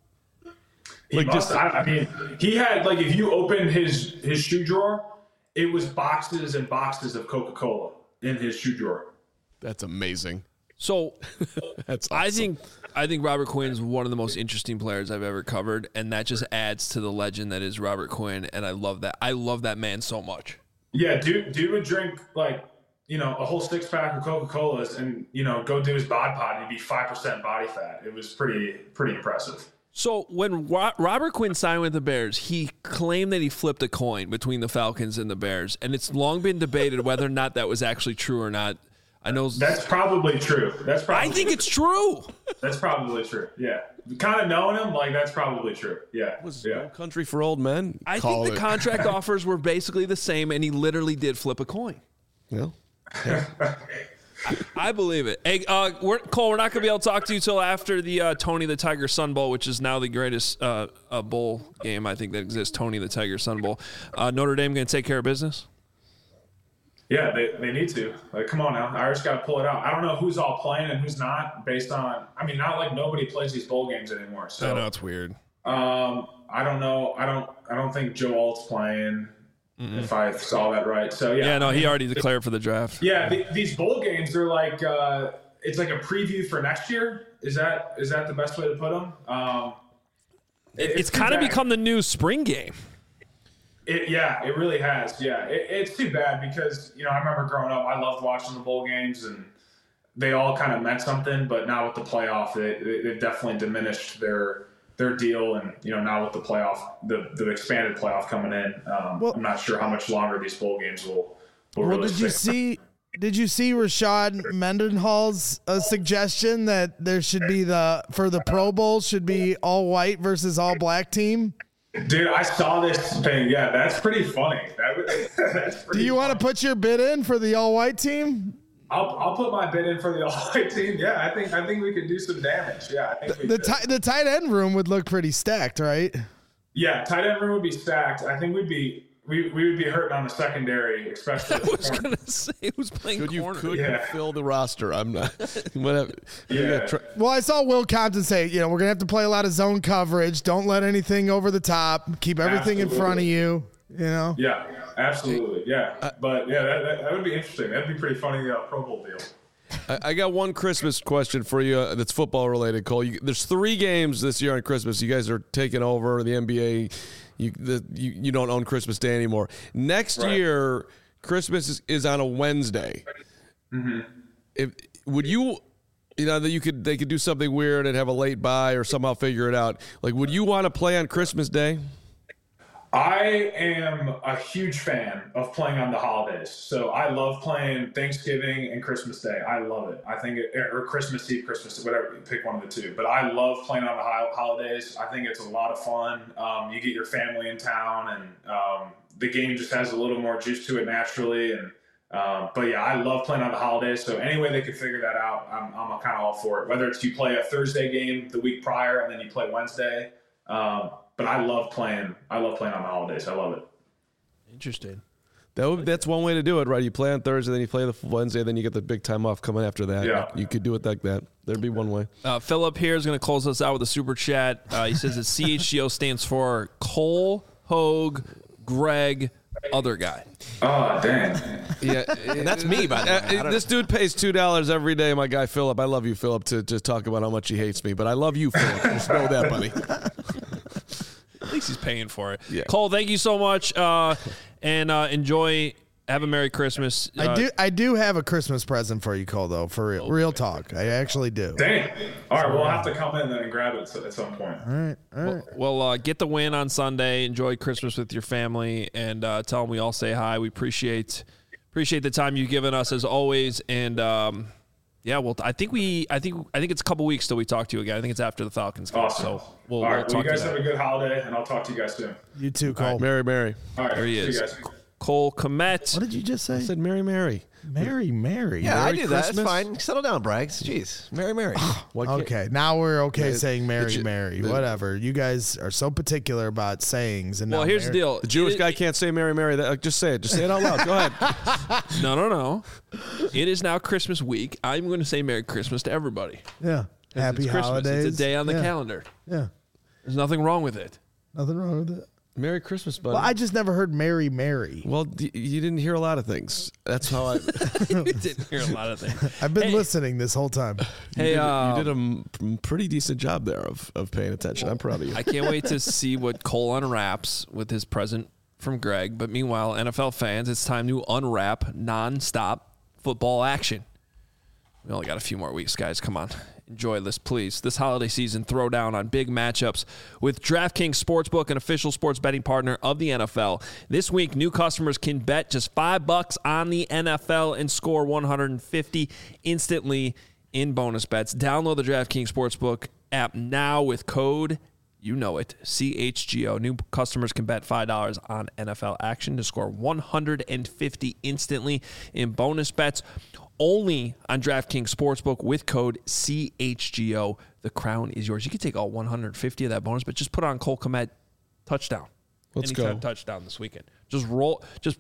He
Like,
must,
just-
I, I mean, he had like if you opened his his shoe drawer, it was boxes and boxes of Coca-Cola in his shoe drawer.
That's amazing.
So
That's awesome.
I think I think Robert Quinn's one of the most interesting players I've ever covered, and that just adds to the legend that is Robert Quinn. And I love that. I love that man so much.
Yeah, dude, dude would drink like you know a whole six pack of Coca-Colas and you know go do his bod pod and he'd be five percent body fat. It was pretty pretty impressive.
So when Ro- Robert Quinn signed with the Bears, he claimed that he flipped a coin between the Falcons and the Bears, and it's long been debated whether or not that was actually true or not. I know
That's probably true. That's probably.
I think it's true.
That's probably true. Yeah, kind of knowing him, like that's probably true. Yeah,
was
yeah.
No Country for Old Men.
I
Call
think the
it.
contract offers were basically the same, and he literally did flip a coin.
Well,
I believe it. Hey, uh, we're, Cole, we're not going to be able to talk to you till after the uh, Tony the Tiger Sun Bowl, which is now the greatest uh, uh, bowl game I think that exists. Tony the Tiger Sun Bowl. Uh, Notre Dame going to take care of business?
Yeah, they, they need to. Like, come on now. Irish got to pull it out. I don't know who's all playing and who's not based on – I mean, not like nobody plays these bowl games anymore. So,
I know it's weird.
Um, I don't know. I don't I don't think Joe Alt's playing, mm-hmm. if I saw that right. So, yeah.
Yeah, no, he already declared for the draft.
Yeah, the, these bowl games, they're like uh, – it's like a preview for next year. Is that is that the best way to put them? Um,
It, it's
too
kind of
bad.
become the new spring game.
It, yeah, it really has. Yeah, it, it's too bad because, you know, I remember growing up, I loved watching the bowl games and they all kind of meant something. But now with the playoff, they, they, they've definitely diminished their their deal. And, you know, now with the playoff, the, the expanded playoff coming in, um,
Well-
I'm not sure how much longer these bowl games will, will
Well,
really
did you
stay.
see? Did you see Rashad Mendenhall's uh, suggestion that there should be the for the Pro Bowl should be all white versus all black team?
Dude, I saw this thing. Yeah, that's pretty funny. That, would- that's pretty
Do you want to
funny.
put your bid in for the all white team?
I'll, I'll put my bid in for the all-white team. Yeah, I think I think we could do some damage. Yeah, I think we
The
could.
ti- the tight end room would look pretty stacked, right?
Yeah, tight end room would be stacked. I think we'd be we, we would be hurting on the secondary, especially.
I
the
was
corner.
going to say who's playing
could you
corner.
could
Yeah.
you fill the roster? I'm not. Whatever. You
Yeah.
gotta try-
Well, I saw Will Compton say, you know, we're gonna have to play a lot of zone coverage. Don't let anything over the top. Keep everything in front of you. You know.
Yeah, absolutely. Yeah, but yeah, that, that, that would be interesting. That'd be pretty funny. Uh, Pro Bowl deal.
I, I got one Christmas question for you uh, that's football related, Cole. You, there's three games this year on Christmas. You guys are taking over the N B A. You the, you, you don't own Christmas Day anymore. Next right. year, Christmas is, is on a Wednesday.
Mm-hmm.
If would you, you know, that you could they could do something weird and have a late bye or somehow figure it out. Like, would you want to play on Christmas Day?
I am a huge fan of playing on the holidays. So I love playing Thanksgiving and Christmas Day. I love it. I think it, or Christmas Eve, Christmas, whatever, pick one of the two. But I love playing on the holidays. I think it's a lot of fun. Um, you get your family in town, and um, the game just has a little more juice to it naturally. And um, but yeah, I love playing on the holidays. So any way they can figure that out, I'm, I'm kind of all for it. Whether it's you play a Thursday game the week prior and then you play Wednesday. Um, But I love playing. I love playing on the holidays. I love it.
Interesting.
That would, that's one way to do it, right? You play on Thursday, then you play the Wednesday, then you get the big time off coming after that.
Yeah.
You could do it like that. There'd be one way.
Uh, Philip here is going to close us out with a super chat. Uh, he says that C H G O stands for Cole, Hogue, Greg, other guy.
Oh, dang.
Yeah,
and that's me, by the way.
Uh, this dude pays two dollars every day, my guy Philip. I love you, Philip, to just talk about how much he hates me, but I love you, Philip. Just know that, buddy.
At least he's paying for it.
Yeah.
Cole, thank you so much, uh, and uh, enjoy. Have a Merry Christmas. Uh,
I do. I do have a Christmas present for you, Cole. Though, for real,
okay.
real talk, I actually do.
Dang. All right, we'll have to come in and grab it at some point.
All right. All right.
Well, well uh, get the win on Sunday. Enjoy Christmas with your family, and uh, tell them we all say hi. We appreciate appreciate the time you've given us as always, and. Um, Yeah, well, I think we, I think, I think it's a couple weeks till we talk to you again. I think it's after the Falcons game.
Awesome.
So we'll,
All right,
we'll talk
well, you guys
to you
have
then.
a good holiday, and I'll talk to you guys soon.
You too, Cole.
Right, Mary, Mary.
All right,
There he
see
is.
you guys.
Cole Komet.
What did you just say?
I said Mary, Mary.
Mary, Mary.
Yeah,
Merry
I do that.
Christmas.
It's fine. Settle down, Braggs. Jeez. Mary, Mary.
Why can't-
Okay, now we're okay
Yeah,
saying Mary,
the-
Mary,
the-
whatever. You guys are so particular about sayings. And
Well,
now
here's the
Mary-
deal.
The Jewish
It-
guy can't say Mary, Mary. That, like, just say it. Just say it out loud. Go ahead.
No, no, no. It is now Christmas week. I'm going to say Merry Christmas to everybody.
Yeah. Happy
it's Christmas.
holidays.
It's a day on the
yeah.
calendar.
Yeah.
There's nothing wrong with it.
Nothing wrong with it.
Merry Christmas, buddy.
Well, I just never heard Mary, Mary.
Well, d- you didn't hear a lot of things. That's how I.
You didn't hear a lot of things.
I've been
Hey.
listening this whole time.
Hey,
you did,
uh,
you did a m- pretty decent job there of, of paying attention. I'm proud of you.
I can't wait to see what Cole unwraps with his present from Greg. But meanwhile, N F L fans, it's time to unwrap nonstop football action. We only got a few more weeks, guys. Come on. Enjoy this, please. This holiday season, throw down on big matchups with DraftKings Sportsbook, an official sports betting partner of the N F L. This week, new customers can bet just five bucks on the N F L and score one hundred fifty instantly in bonus bets. Download the DraftKings Sportsbook app now with code, you know it, C H G O. New customers can bet five dollars on N F L action to score one hundred fifty instantly in bonus bets. Only on DraftKings Sportsbook with code C H G O. The crown is yours. You can take all one hundred fifty of that bonus, but just put on Cole Komet touchdown.
Let's
Anytime
go.
touchdown this weekend. Just roll. Just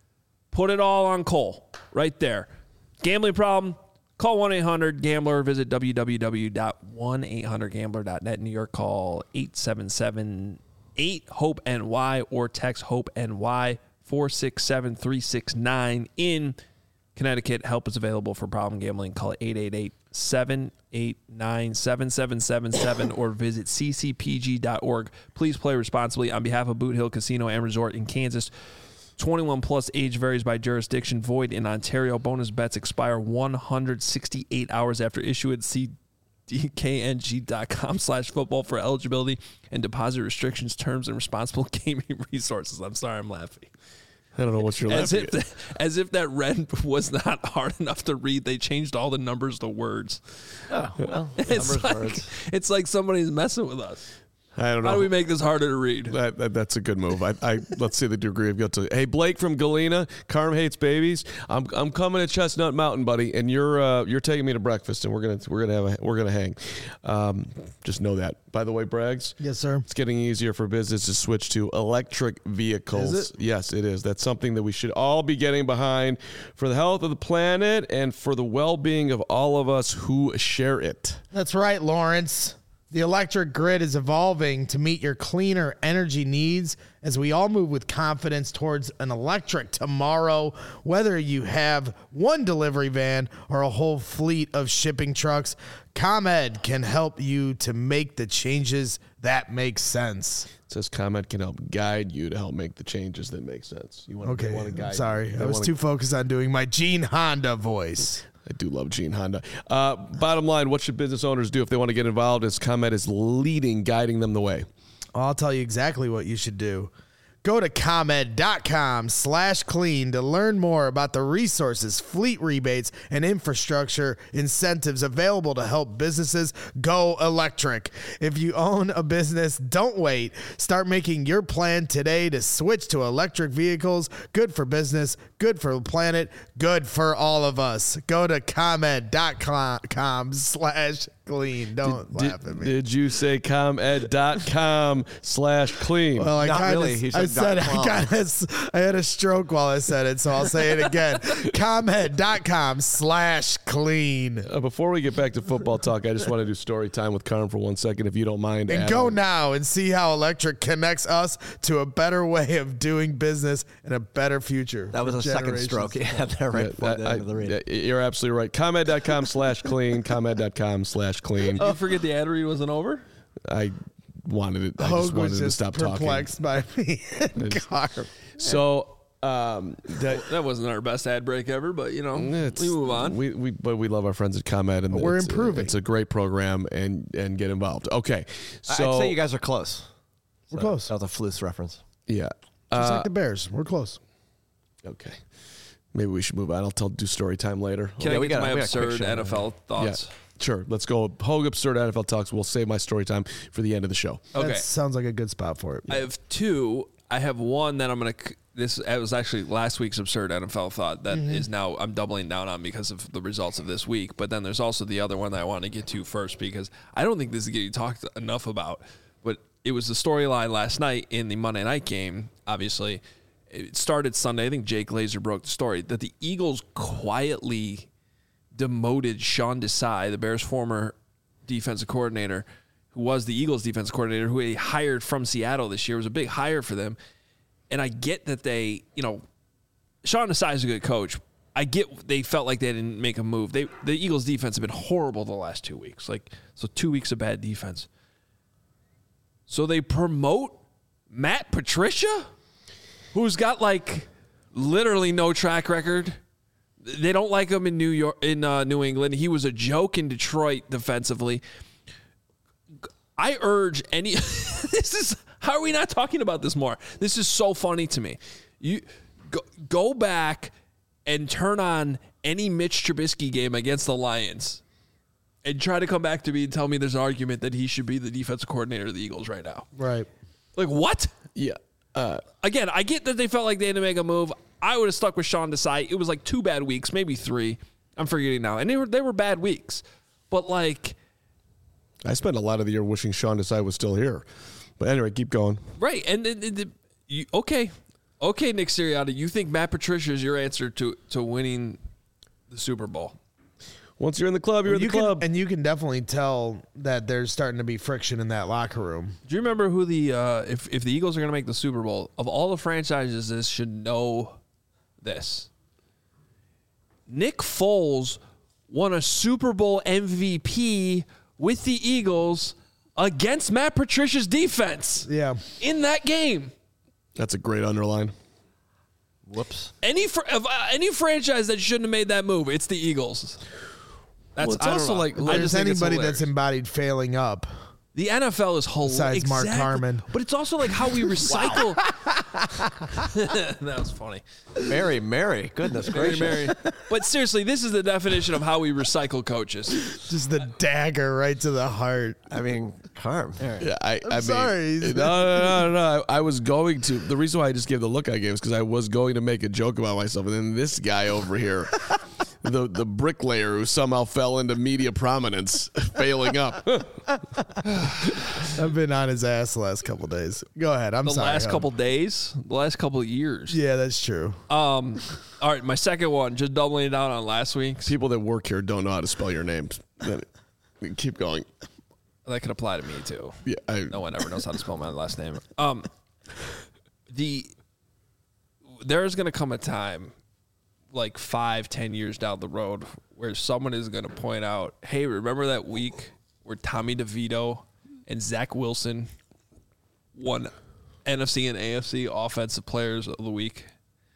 put it all on Cole right there. Gambling problem? Call one eight hundred gambler. Visit w w w dot one eight hundred gambler dot net. New York, call eight seven seven eight hope N Y or text HOPE-NY four six seven three six nine. In Connecticut, help is available for problem gambling. Call eight eight eight seven eight nine seven seven seven seven or visit c c p g dot org. Please play responsibly. On behalf of Boot Hill Casino and Resort in Kansas, twenty-one plus, age varies by jurisdiction, void in Ontario. Bonus bets expire one hundred sixty-eight hours after issuance. See d k n g dot com slash football for eligibility and deposit restrictions, terms, and responsible gaming resources. I'm sorry, I'm laughing.
I don't know what you're
As
laughing
if,
at.
the, as if that red was not hard enough to read, they changed all the numbers to words.
Oh, well,
It's
numbers,
like,
words.
it's like somebody's messing with us.
I don't know.
How do we make this harder to read?
That, that, that's a good move. I, I let's see the degree of guilt. Hey, Blake from Galena, Carm hates babies. I'm I'm coming to Chestnut Mountain, buddy, and you're uh, you're taking me to breakfast, and we're gonna we're gonna have a, we're gonna hang. Um, just know that. By the way, Braggs.
Yes, sir.
It's getting easier for business to switch to electric vehicles.
Is it?
Yes, it is. That's something that we should all be getting behind for the health of the planet and for the well-being of all of us who share it.
That's right, Lawrence. The electric grid is evolving to meet your cleaner energy needs as we all move with confidence towards an electric tomorrow. Whether you have one delivery van or a whole fleet of shipping trucks, ComEd can help you to make the changes that make sense.
It says ComEd can help guide you to help make the changes that make sense. You want
Okay,
to, want to guide
sorry.
you.
I was
wanna,
too focused on doing my Gene Honda voice.
I do love Gene Honda. Uh, bottom line, what should business owners do if they want to get involved as ComEd is leading, guiding them the way?
I'll tell you exactly what you should do. Go to ComEd.com slash clean to learn more about the resources, fleet rebates, and infrastructure incentives available to help businesses go electric. If you own a business, don't wait. Start making your plan today to switch to electric vehicles. Good for business, good for the planet, good for all of us. Go to ComEd.com slash clean. Don't
did,
laugh at me.
Did you say ComEd.com slash clean?
Well, I
Not
kinda,
really. He
I
said
said
dot com.
I, kinda, I had a stroke while I said it, so I'll say it again. ComEd.com slash clean.
Uh, before we get back to football talk, I just want to do story time with Carm for one second, if you don't mind.
And
Adam.
go now and see how electric connects us to a better way of doing business and a better future.
That was
for
a second
generations.
stroke. Yeah, there right
Yeah,
before the
I-
end of the read.
I- you're absolutely right. ComEd.com slash clean. ComEd.com slash clean.
You forget the ad read wasn't over?
I wanted it. I
Hogue
just wanted
was
to
just
stop talking.
perplexed by me and Carm.
So, um, that,
That wasn't our best ad break ever, but you know,
it's,
we move on.
We, we, but we love our friends at ComEd, and
We're
it's, uh,
improving.
it's a great program, and and get involved. Okay, so
I'd say you guys are close.
We're close.
That was a Flus reference.
yeah,
Just
uh,
like the Bears. We're close.
okay. Maybe we should move on. I'll tell do story time later.
Can
Yeah,
I
we
get to
got-
my
we got a quick
absurd
show.
N F L thoughts?
Yeah, sure. Let's go. Hogue absurd N F L talks. We'll save my story time for the end of the show.
Okay.
That sounds like a good spot for it.
I have two. I have one that I'm going to. This it was actually last week's absurd N F L thought that is now I'm doubling down on because of the results of this week. But then there's also the other one that I want to get to first because I don't think this is getting talked enough about. But it was the storyline last night in the Monday night game. Obviously, it started Sunday. I think Jake Glazer broke the story that the Eagles quietly demoted Sean Desai, the Bears' former defensive coordinator, who was the Eagles' defensive coordinator, who they hired from Seattle this year. It was a big hire for them. And I get that they, you know, Sean Desai is a good coach. I get they felt like they didn't make a move. They the Eagles' defense have been horrible the last two weeks. Like, so two weeks of bad defense. So they promote Matt Patricia, who's got like literally no track record. They don't like him in New York, in uh, New England. He was a joke in Detroit defensively. I urge any. This is how are we not talking about this more? This is so funny to me. You go, go back and turn on any Mitch Trubisky game against the Lions, and try to come back to me and tell me there's an argument that he should be the defensive coordinator of the Eagles right now.
Right.
Like what?
Yeah. Uh,
Again, I get that they felt like they had to make a move. I would have stuck with Sean Desai. It was like two bad weeks, maybe three. I'm forgetting now, and they were they were bad weeks. But like,
I spent a lot of the year wishing Sean Desai was still here. But anyway, keep going.
right? And, and, and you, okay, okay, Nick Sirianni, you think Matt Patricia is your answer to to winning the Super Bowl?
Once you're in the club, you're
you
in the
can,
club.
and you can definitely tell that there's starting to be friction in that locker room.
Do you remember who the uh, if if the Eagles are going to make the Super Bowl, of all the franchises, this should know this. Nick Foles won a Super Bowl M V P with the Eagles against Matt Patricia's defense
Yeah.
in that game.
That's a great underline.
Whoops.
Any fr- of, uh, any franchise that shouldn't have made that move, it's the Eagles. That's
Well, it's
I don't
also
know.
like-
I
If
just
there's
think it's
anybody
hilarious.
that's embodied failing up.
The N F L is hilarious.
Besides Mark Carman.
But it's also like how we recycle. That was funny.
Mary, Mary. Goodness
Mary,
gracious.
Mary. But seriously, this is the definition of how we recycle coaches.
Just the dagger right to the heart.
I mean, Carm.
Yeah, I, I mean,
sorry.
No, no, no, no. I, I was going to. The reason why I just gave the look I gave is because I was going to make a joke about myself, and then this guy over here, the the bricklayer who somehow fell into media prominence, failing up.
I've been on his ass the last couple days. Go ahead. I'm
The
sorry.
last
Hub.
couple days, the last couple of years.
Yeah, that's true.
Um, all right, my second one, just doubling down on last week's.
People that work here don't know how to spell your names. Then- Keep going.
That could apply to me too.
Yeah, I,
No one ever knows how to spell my last name. Um, the there's going to come a time, like five, ten years down the road, where someone is going to point out, hey, remember that week where Tommy DeVito and Zach Wilson won N F C and A F C Offensive Players of the Week?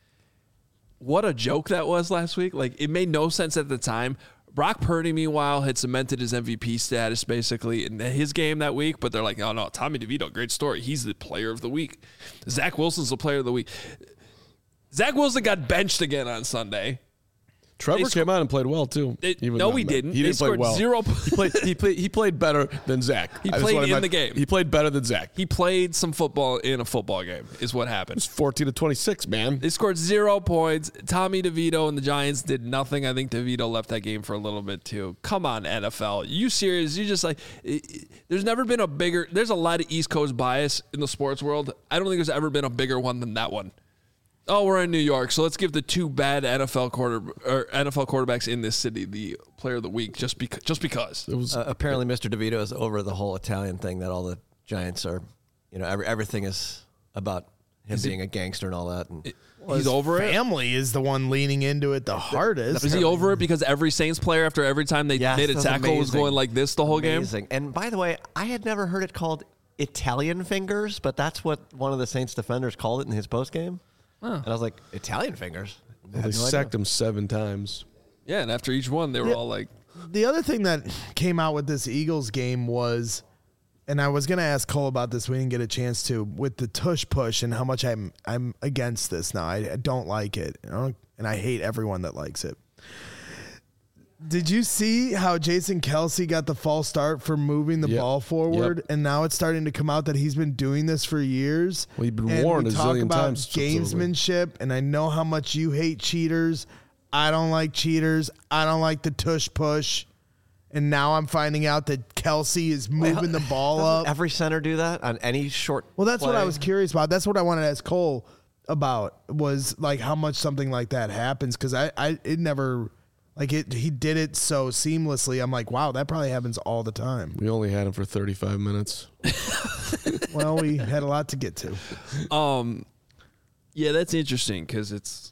What a joke that was last week. Like, it made no sense at the time. Brock Purdy, meanwhile, had cemented his M V P status basically in his game that week, but they're like, oh, no, Tommy DeVito, great story. He's the player of the week. Zach Wilson's the player of the week. Zach Wilson got benched again on Sunday.
Trevor
They
came out and played well, too.
They,
Even
no,
on
he
that.
didn't.
He
They
didn't play
scored
well.
zero.
He played, he, played, he played better than Zach.
He
That's
played
what I
in
meant.
the game.
He played better than Zach.
He played some football in a football game is what happened.
It's fourteen to twenty-six, man.
They scored zero points. Tommy DeVito and the Giants did nothing. I think DeVito left that game for a little bit too. Come on, N F L. You serious? You just like, it, it, there's never been a bigger, there's a lot of East Coast bias in the sports world. I don't think there's ever been a bigger one than that one. Oh, we're in New York, so let's give the two bad N F L quarter or N F L quarterbacks in this city the player of the week just because. Just because.
It was
Uh, apparently, Mister DeVito is over the whole Italian thing that all the Giants are, you know, every, everything is about him
Is
being
he-
a gangster and all that. And
It- he's over it.
Family is the one leaning into it the hardest.
Is he over it because every Saints player, after every time they
Yes,
made a
that's
tackle, was
amazing.
going like this the whole game?
Amazing. And by the way, I had never heard it called Italian fingers, but that's what one of the Saints defenders called it in his postgame. And I was like, Italian fingers? I
they
had no
sacked
idea.
him seven times.
Yeah, and after each one, they were
Yeah.
all like,
The other thing that came out with this Eagles game was, and I was going to ask Cole about this. We didn't get a chance to, with the tush push and how much I'm I'm against this now. I, I don't like it, you know, and I hate everyone that likes it. Did you see how Jason Kelsey got the false start for moving the
Yep.
ball forward?
Yep.
And now it's starting to come out that he's been doing this for years.
Well, he's been
And
warned
we
a
talk
zillion
about
times, supposedly.
gamesmanship, and I know how much you hate cheaters. I don't like cheaters. I don't like the tush push. And now I'm finding out that Kelsey is moving the ball
Doesn't
up.
every center do that on any short
Well, that's what I
play?
was curious about. That's what I wanted to ask Cole about, was like how much something like that happens, because I, I it never like it. He did it so seamlessly. I'm like, wow, that probably happens all the time.
We only had him for thirty-five minutes.
Well, we had a lot to get to.
um, yeah, that's interesting because it's,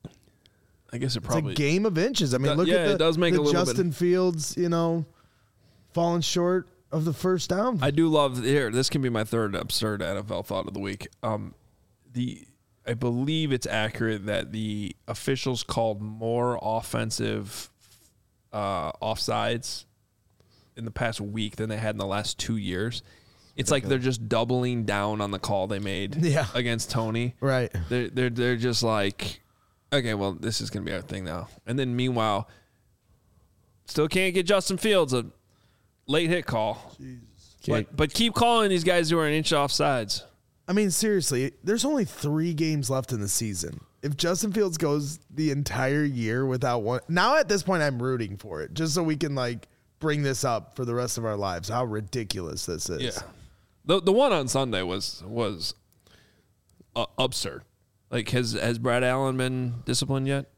I guess it
It's
probably
a game of inches. I mean,
Do-
look
yeah,
at the,
it does make
the
a little bit-
Justin Fields, you know, falling short of the first down.
I do love here. This can be my third absurd N F L thought of the week. Um, the I believe it's accurate that the officials called more offensive uh, offsides in the past week than they had in the last two years. It's like they're just doubling down on the call they made
Yeah.
against Tony.
right.
They're they're they're just like, okay, well, this is gonna be our thing now. And then meanwhile, still can't get Justin Fields a late hit call. But but keep calling these guys who are an inch off sides.
I mean, seriously, there's only three games left in the season. If Justin Fields goes the entire year without one, now at this point, I'm rooting for it just so we can like bring this up for the rest of our lives. How ridiculous this is.
Yeah, the the one on Sunday was was uh, absurd. Like, has has Brad Allen been disciplined yet?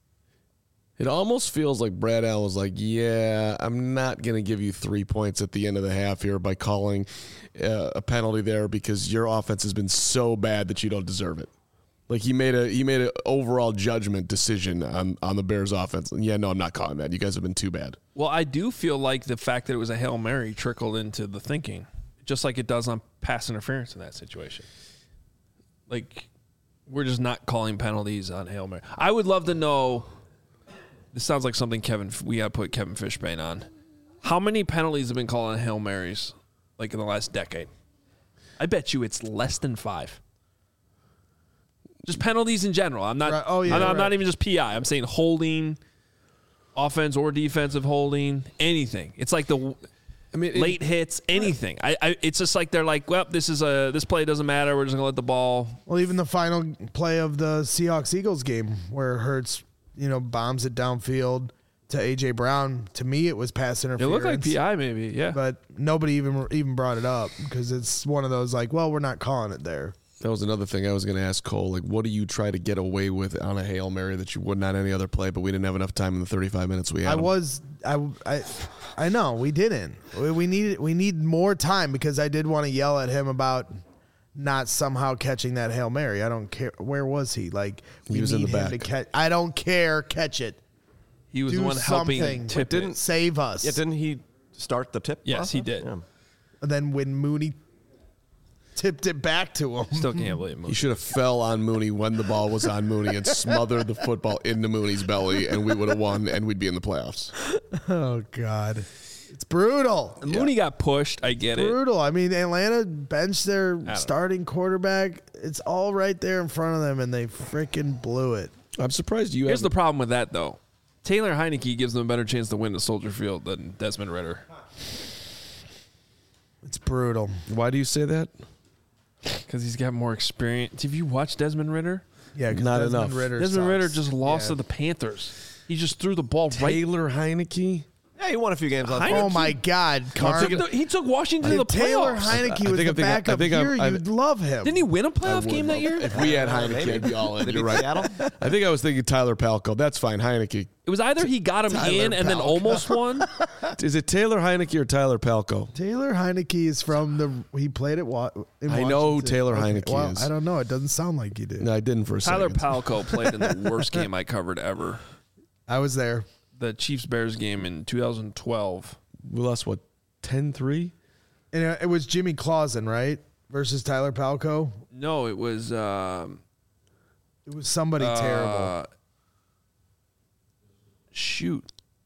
It almost feels like Brad Allen was like, yeah, I'm not going to give you three points at the end of the half here by calling uh, a penalty there because your offense has been so bad that you don't deserve it. Like he made a he made an overall judgment decision on, on the Bears offense. And yeah, no, I'm not calling that. You guys have been too bad.
Well, I do feel like the fact that it was a Hail Mary trickled into the thinking, just like it does on pass interference in that situation. Like, we're just not calling penalties on Hail Mary. I would love to know. This sounds like something Kevin we got to put Kevin Fishbane on. How many penalties have been called on Hail Marys like in the last decade? I bet you it's less than five. Just penalties in general. I'm not.
Right. Oh, yeah,
I'm, not, I'm
right.
not even just P I. I'm saying holding, offense or defensive holding, anything. It's like the
I mean, it-
late hits, anything. I, I. It's just like they're like, well, this is a this play doesn't matter. We're just gonna let the ball.
Well, even the final play of the Seahawks Eagles game where Hurts, you know, bombs it downfield to A J Brown. To me, it was pass
It
interference.
looked like P I maybe. Yeah.
But nobody even even brought it up because it's one of those like, well, we're not calling it there.
That was another thing I was going to ask Cole. Like, what do you try to get away with on a Hail Mary that you would not any other play, but we didn't have enough time in the thirty-five minutes we had?
I
him?
was I I I know we didn't. We, we needed we need more time because I did want to yell at him about not somehow catching that Hail Mary. I don't care. Where was he? Like, we
He was in
need
the
him to
back.
catch. I don't care. Catch it.
He was
Do
the one helping
something.
tip
Didn't-
it.
Save us.
Yeah, didn't he start the tip?
Yes, he
process?
did.
Yeah.
And then when Mooney tipped it back to him.
Still can't believe
He
it.
should have fell on Mooney when the ball was on Mooney and smothered the football into Mooney's belly, and we would have won, and we'd be in the playoffs.
Oh, God. It's brutal.
Mooney got pushed. I get it.
Brutal. I mean, Atlanta benched their starting quarterback. It's all right there in front of them, and they freaking blew it.
I'm surprised you
Here's the
haven't.
problem with that, though. Taylor Heineke gives them a better chance to win at Soldier Field than Desmond Ridder.
It's brutal.
Why do you say that?
Because he's got more experience. Have you watched Desmond Ridder?
Yeah, 'cause
Not
Desmond
enough.
Ridder
Desmond
sucks.
Ridder just lost
Yeah.
to the Panthers. He just threw the ball right.
Taylor Heineke?
Yeah, he won a few games last
Heineke-
year.
Oh, my God. Carm.
He took- He took Washington to the
If Taylor
playoffs.
Heineke
I
was
think
the
I'm thinking- I
backup
think I'm-
here,
I-
you'd love him.
Didn't he win a
I
playoff
would
game that
love-
year?
If we had Heineke,
Maybe.
I'd be all in.
Did he
You're
beat
right.
Seattle?
I think I was thinking Tyler Palko. That's fine. Heineke.
It was either he got him
Tyler
in and then
Palko.
almost won.
Is it Taylor Heineke or Tyler Palko?
Taylor Heineke is from the. He played at Wa- in
I know who
Washington.
Taylor
Okay,
Heineke
well,
is.
I don't know. It doesn't sound like you did.
No, I didn't for a
Tyler
second.
Palko played in the worst game I covered ever.
I was there.
The Chiefs-Bears game in two thousand twelve.
We lost, what, ten three?
And it was Jimmy Clausen, right? Versus Tyler Palko.
No, it was um,
It was somebody
uh,
terrible.
Shoot.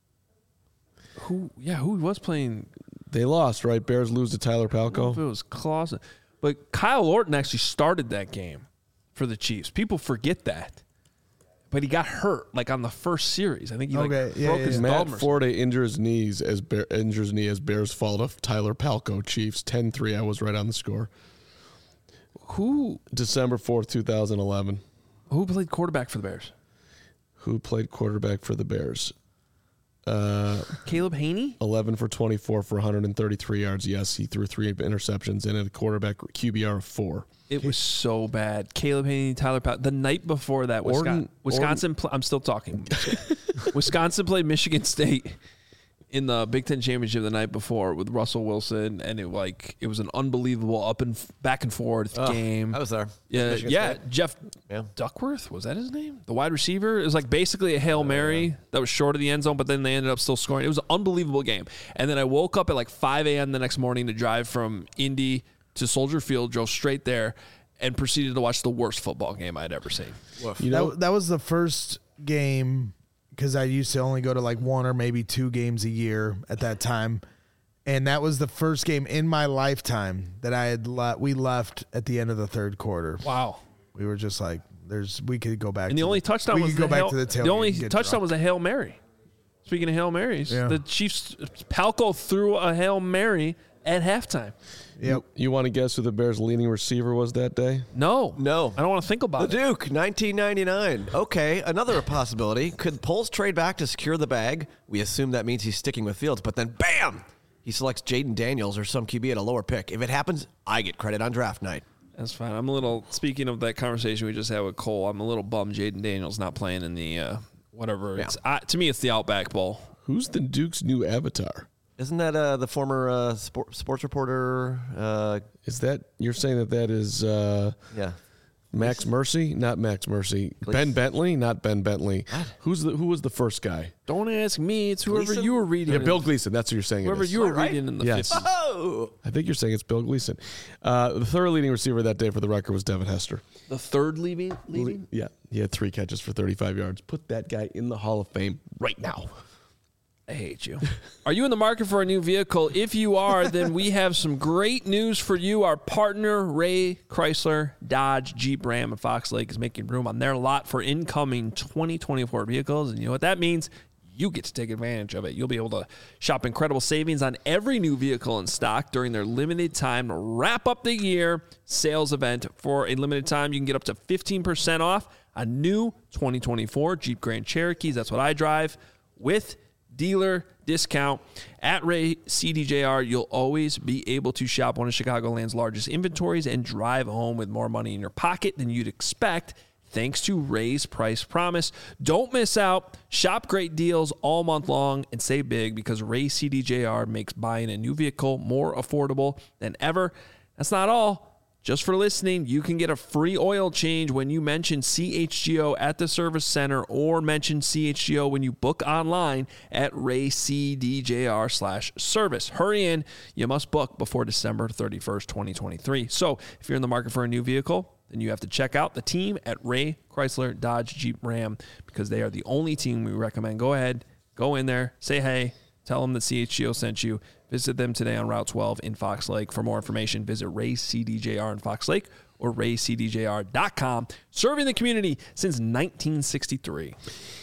Who? Yeah, who was playing?
They lost, right? Bears lose to Tyler
I don't know if
Palko.
it was Clausen, but Kyle Orton actually started that game for the Chiefs. People forget that, but he got hurt like on the first series. I think he like
Okay, yeah,
broke
yeah,
his
yeah.
Matt
thumb or
Forte injures knees as Bear, injures knee as Bears fall to Tyler Palko. Chiefs ten three. I was right on the score.
something. Who
December fourth, two thousand eleven.
who played quarterback for the Bears?
Who played quarterback for the Bears? Uh,
Caleb Haney.
eleven for twenty-four for one hundred thirty-three yards. Yes, he threw three interceptions and had a quarterback Q B R of four.
It was so bad. Caleb Haney, Tyler Powell. The night before that, Wisconsin.
Orton-
Wisconsin pl- I'm still talking. Wisconsin played Michigan State in the Big Ten championship the night before with Russell Wilson, and it like it was an unbelievable up and f- back and forth
Oh,
game.
I was there.
yeah,
Michigan
yeah.
State.
Jeff
Yeah.
Duckworth, was that his name? The wide receiver. It was like basically a Hail Mary that was short of the end zone, but then they ended up still scoring. It was an unbelievable game. And then I woke up at like five a.m. the next morning to drive from Indy to Soldier Field, drove straight there, and proceeded to watch the worst football game I'd ever seen.
You know,
that, that was the first game because I used to only go to like one or maybe two games a year at that time. And that was the first game in my lifetime that I had le- we left at the end of the third quarter.
Wow.
We were just like, "There's we could go back."
And
to
the only
the,
touchdown
we
was
could go
the
back
Hail-
to the tailgate
the only
and get
touchdown
drunk.
was a Hail Mary. Speaking of Hail Marys,
Yeah.
the Chiefs Palko threw a Hail Mary at halftime.
Yep.
you want to guess who the Bears' leading receiver was that day?
No,
No.
I don't want to think
The
about it.
Duke, nineteen ninety-nine. Okay, another possibility. Could Poles trade back to secure the bag? We assume that means he's sticking with Fields, but then bam! He selects Jaden Daniels or some Q B at a lower pick. If it happens, I get credit on draft night.
That's fine. I'm a little. Speaking of that conversation we just had with Cole, I'm a little bummed Jaden Daniels not playing in the uh, whatever.
Yeah.
It's uh, to me, it's the Outback Bowl.
Who's the Duke's new avatar?
Isn't that uh, the former uh, sport, sports reporter? Uh,
Is that you're saying that that is uh,
yeah.
Max Mercy? Not Max Mercy. Ben Bentley? Not Ben Bentley. Who's the who was the first guy?
Don't ask me. It's whoever
Gleason?
you were reading.
Yeah,
in-
Bill Gleason. That's what you're saying. it
Whoever
is.
you were
Am I right?
reading in the
Yes.
fifties.
Oh!
I think you're saying it's Bill Gleason. Uh, the third leading receiver that day for the record was Devin Hester.
The third leaving. leaving?
Yeah, he had three catches for thirty-five yards. Put that guy in the Hall of Fame right now.
I hate you. Are you in the market for a new vehicle? If you are, then we have some great news for you. Our partner, Ray Chrysler, Dodge, Jeep, Ram, and Fox Lake is making room on their lot for incoming twenty twenty-four vehicles. And you know what that means? You get to take advantage of it. You'll be able to shop incredible savings on every new vehicle in stock during their limited time wrap up the year sales event. For a limited time, you can get up to fifteen percent off a new twenty twenty-four Jeep Grand Cherokees. That's what I drive with dealer discount at Ray C D J R. You'll always be able to shop one of Chicagoland's largest inventories and drive home with more money in your pocket than you'd expect, thanks to Ray's Price Promise. Don't miss out. Shop great deals all month long and save big because Ray C D J R makes buying a new vehicle more affordable than ever. That's not all. Just for listening, you can get a free oil change when you mention C H G O at the service center or mention C H G O when you book online at raycdjr slash service. Hurry in. You must book before December thirty-first, twenty twenty-three. So if you're in the market for a new vehicle, then you have to check out the team at Ray Chrysler Dodge Jeep Ram because they are the only team we recommend. Go ahead, go in there, say hey, tell them that C H G O sent you. Visit them today on Route twelve in Fox Lake. For more information, visit Ray C D J R in Fox Lake or ray c d j r dot com. Serving the community since nineteen sixty-three.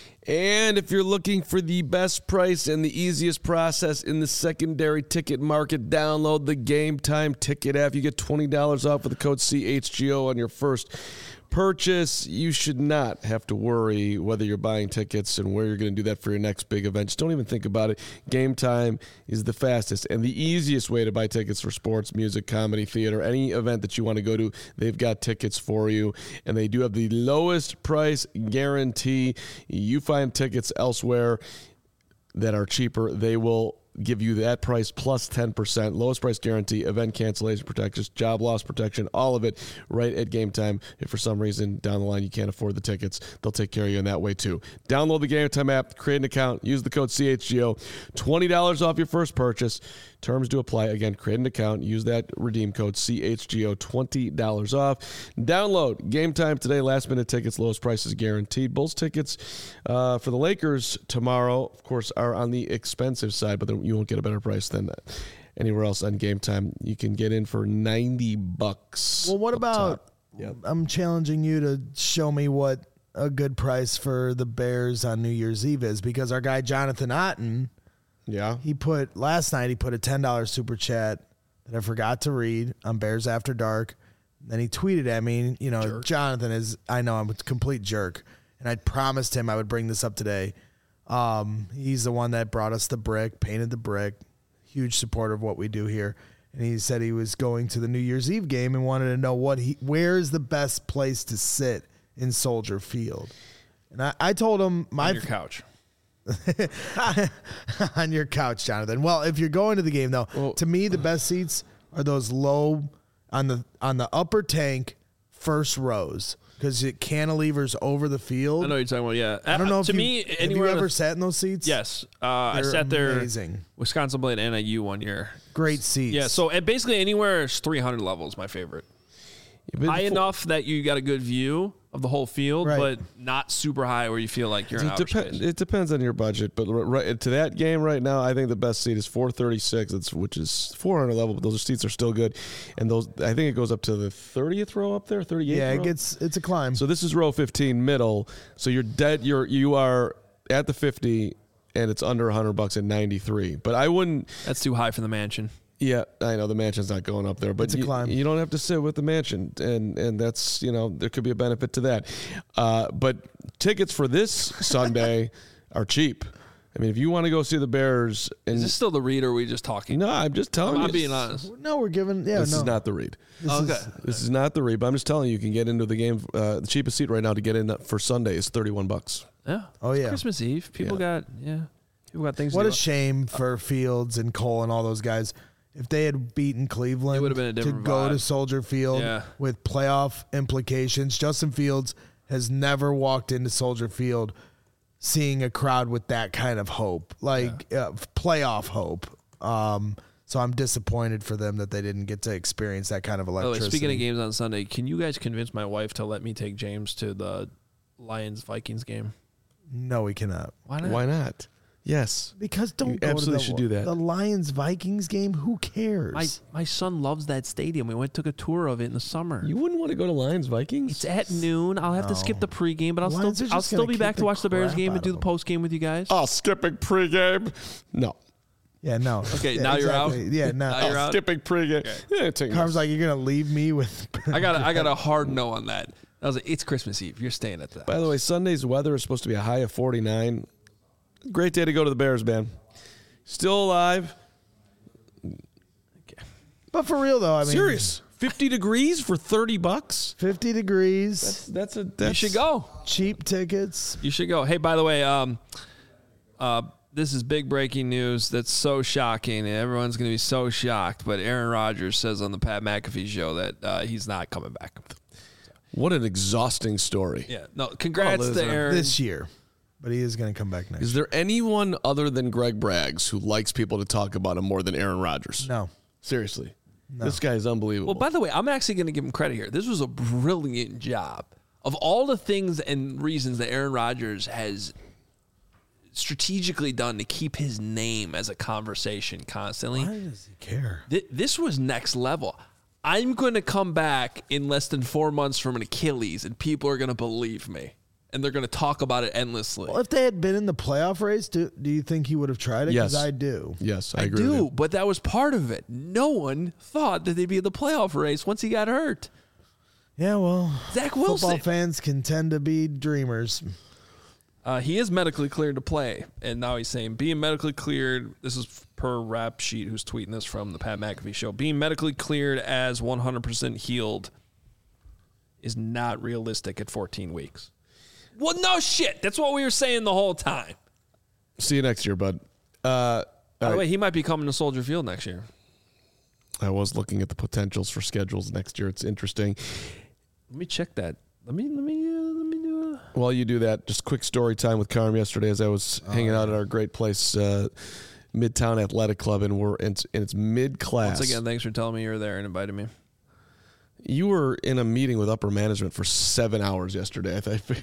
And if you're looking for the best price and the easiest process in the secondary ticket market, download the Game Time Ticket app. You get twenty dollars off with the code C H G O on your first purchase. You should not have to worry whether you're buying tickets and where you're going to do that for your next big event. Just don't even think about it. Game Time is the fastest and the easiest way to buy tickets for sports, music, comedy, theater, any event that you want to go to. They've got tickets for you, and they do have the lowest price guarantee. You find tickets elsewhere that are cheaper, they will give you that price plus ten percent, lowest price guarantee, event cancellation protection, job loss protection, all of it right at Game Time. If for some reason down the line you can't afford the tickets, they'll take care of you in that way too. Download the Game Time app, create an account, use the code C H G O, twenty dollars off your first purchase. Terms do apply. Again, create an account, use that redeem code C H G O, twenty dollars off. Download Game Time today. Last minute tickets, lowest prices guaranteed. Bulls tickets uh, for the Lakers tomorrow, of course, are on the expensive side, but you won't get a better price than that anywhere else on Game Time. You can get in for ninety bucks.
Well, what about,
Yep.
I'm challenging you to show me what a good price for the Bears on New Year's Eve is, because our guy Jonathan Otten,
Yeah.
he put, last night he put a ten dollars super chat that I forgot to read on Bears After Dark. Then he tweeted at me, you know,
Jerk.
Jonathan is, I know I'm a complete jerk, and I promised him I would bring this up today. Um, he's the one that brought us the brick, painted the brick, huge supporter of what we do here. And he said he was going to the New Year's Eve game and wanted to know what he, where is the best place to sit in Soldier Field. And I, I told him my
On your couch.
on your couch, Jonathan. Well, if you're going to the game though,
Well,
to me the best seats are those low on the on the upper tank first rows, because it cantilevers over the field.
I know what you're talking about, yeah.
I don't know if
to
you,
me,
have
anywhere
you
on
ever
the-
sat in those seats?
Yes. Uh, I
They're
sat there
amazing.
Wisconsin Blade N I U one year.
Great seats.
Yeah, so and basically anywhere is three hundred level is my favorite. High enough that you got a good view of the whole field,
Right.
but not super high where you feel like you're in
It,
outer
depen-
space.
it depends on your budget, but r- right to that game right now, I think the best seat is four thirty-six, it's, which is four hundred level, but those seats are still good. And those, I think it goes up to the thirtieth row up there, thirty-eighth
Yeah,
row.
it gets it's a climb.
So this is row fifteen, middle. So you're dead. You're you are at the fifty, and it's under a hundred bucks at ninety-three. But I wouldn't.
That's too high for the mansion.
Yeah, I know the mansion's not going up there, but
It's a
you,
climb.
you don't have to sit with the mansion, and and that's, you know, there could be a benefit to that. Uh, but tickets for this Sunday are cheap. I mean, if you want to go see the Bears, and
Is this still the read or are we just talking?
no, I'm just telling
I'm
you,
not being honest.
no, we're giving yeah.
this
no.
is not the read.
This
Okay.
is-
This is not the read, but I'm just telling you, you can get into the game. Uh, the cheapest seat right now to get in for Sunday is thirty-one bucks.
Yeah.
Oh,
It's
yeah.
Christmas Eve. People got yeah. People got things
What
to
a
do.
shame for Fields and Cole and all those guys. If they had beaten Cleveland,
It would've been a
to
different
go
vibe.
to Soldier Field
Yeah.
with playoff implications. Justin Fields has never walked into Soldier Field seeing a crowd with that kind of hope, like uh, playoff hope. Um, so I'm disappointed for them that they didn't get to experience that kind of
By the way,
electricity.
speaking of games on Sunday, can you guys convince my wife to let me take James to the Lions Vikings game?
No, we cannot.
Why not?
Why not? Yes.
Because don't
You
go
absolutely
to the,
should do that.
The Lions Vikings game. Who cares?
My my son loves that stadium. We went took a tour of it in the summer.
You wouldn't want to go to Lions Vikings?
It's at noon. I'll have to skip the pregame, but I'll
Lions
still
are
I'll
just
still
gonna
be
kick
back to
the
watch the Bears
crap
game
out
and do
of
the post game with you guys.
Oh, skipping pregame? No.
yeah, no.
Okay,
Yeah,
now you're out?
exactly. Yeah, no.
Now you're out?
Skipping pregame. Yeah, take
Carm's like, you're gonna leave me with.
I got a, I got a hard no on that. I was like, it's Christmas Eve. You're staying at that.
By the way, Sunday's weather is supposed to be a high of forty-nine. Great day to go to the Bears, man. Still alive.
But for real though, I mean,
Serious. fifty degrees for thirty bucks?
fifty degrees,
That's, that's a.
You
That's,
should go.
cheap tickets.
You should go. Hey, by the way, um, uh, this is big breaking news. That's so shocking. Everyone's going to be so shocked. But Aaron Rodgers says on the Pat McAfee show that uh, he's not coming back.
What an exhausting story.
Yeah. No, congrats
Oh,
to Aaron.
This year. But he is going to come back next
Is there anyone other than Greg Braggs who likes people to talk about him more than Aaron Rodgers?
No.
Seriously. This guy is unbelievable.
Well, by the way, I'm actually going to give him credit here. This was a brilliant job. Of all the things and reasons that Aaron Rodgers has strategically done to keep his name as a conversation constantly,
Why does he care?
th- this was next level. I'm going to come back in less than four months from an Achilles, and people are going to believe me. And they're going to talk about it endlessly.
Well, if they had been in the playoff race, do, do you think he would have tried it?
Yes.
Because I do.
yes, I,
I
agree with
do,
you.
but that was part of it. No one thought that they'd be in the playoff race once he got hurt.
Yeah, well,
Zach
football
Wilson.
fans can tend to be dreamers.
Uh, he is medically cleared to play, and now he's saying being medically cleared. This is per Rap Sheet, who's tweeting this from the Pat McAfee show. Being medically cleared as one hundred percent healed is not realistic at fourteen weeks. Well, no shit. That's what we were saying the whole time.
See you next year, bud. Uh,
By the way, he might be coming to Soldier Field next year.
I was looking at the potentials for schedules next year. It's interesting.
Let me check that. Let me let me uh, let me do a.
While you do that, just quick story time with Carm yesterday as I was hanging out at our great place, uh, Midtown Athletic Club, and we're in, and it's mid class.
Once again, thanks for telling me you were there and inviting me.
You were in a meeting with upper management for seven hours yesterday, I think.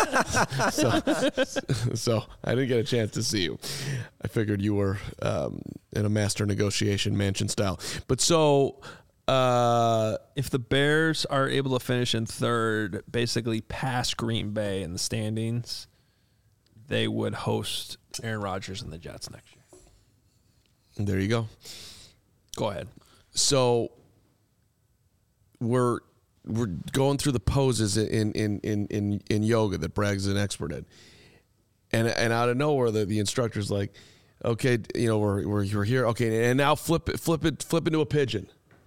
so, so I didn't get a chance to see you. I figured you were um, in a master negotiation mansion style. But so, uh,
If the Bears are able to finish in third, basically past Green Bay in the standings, they would host Aaron Rodgers and the Jets next year.
there you go.
Go ahead.
So we're we're going through the poses in in in in, in yoga that Bragg's an expert in, and and out of nowhere the, the instructor's like, okay, you know we're we're we're here, okay, and now flip it flip it flip into a pigeon,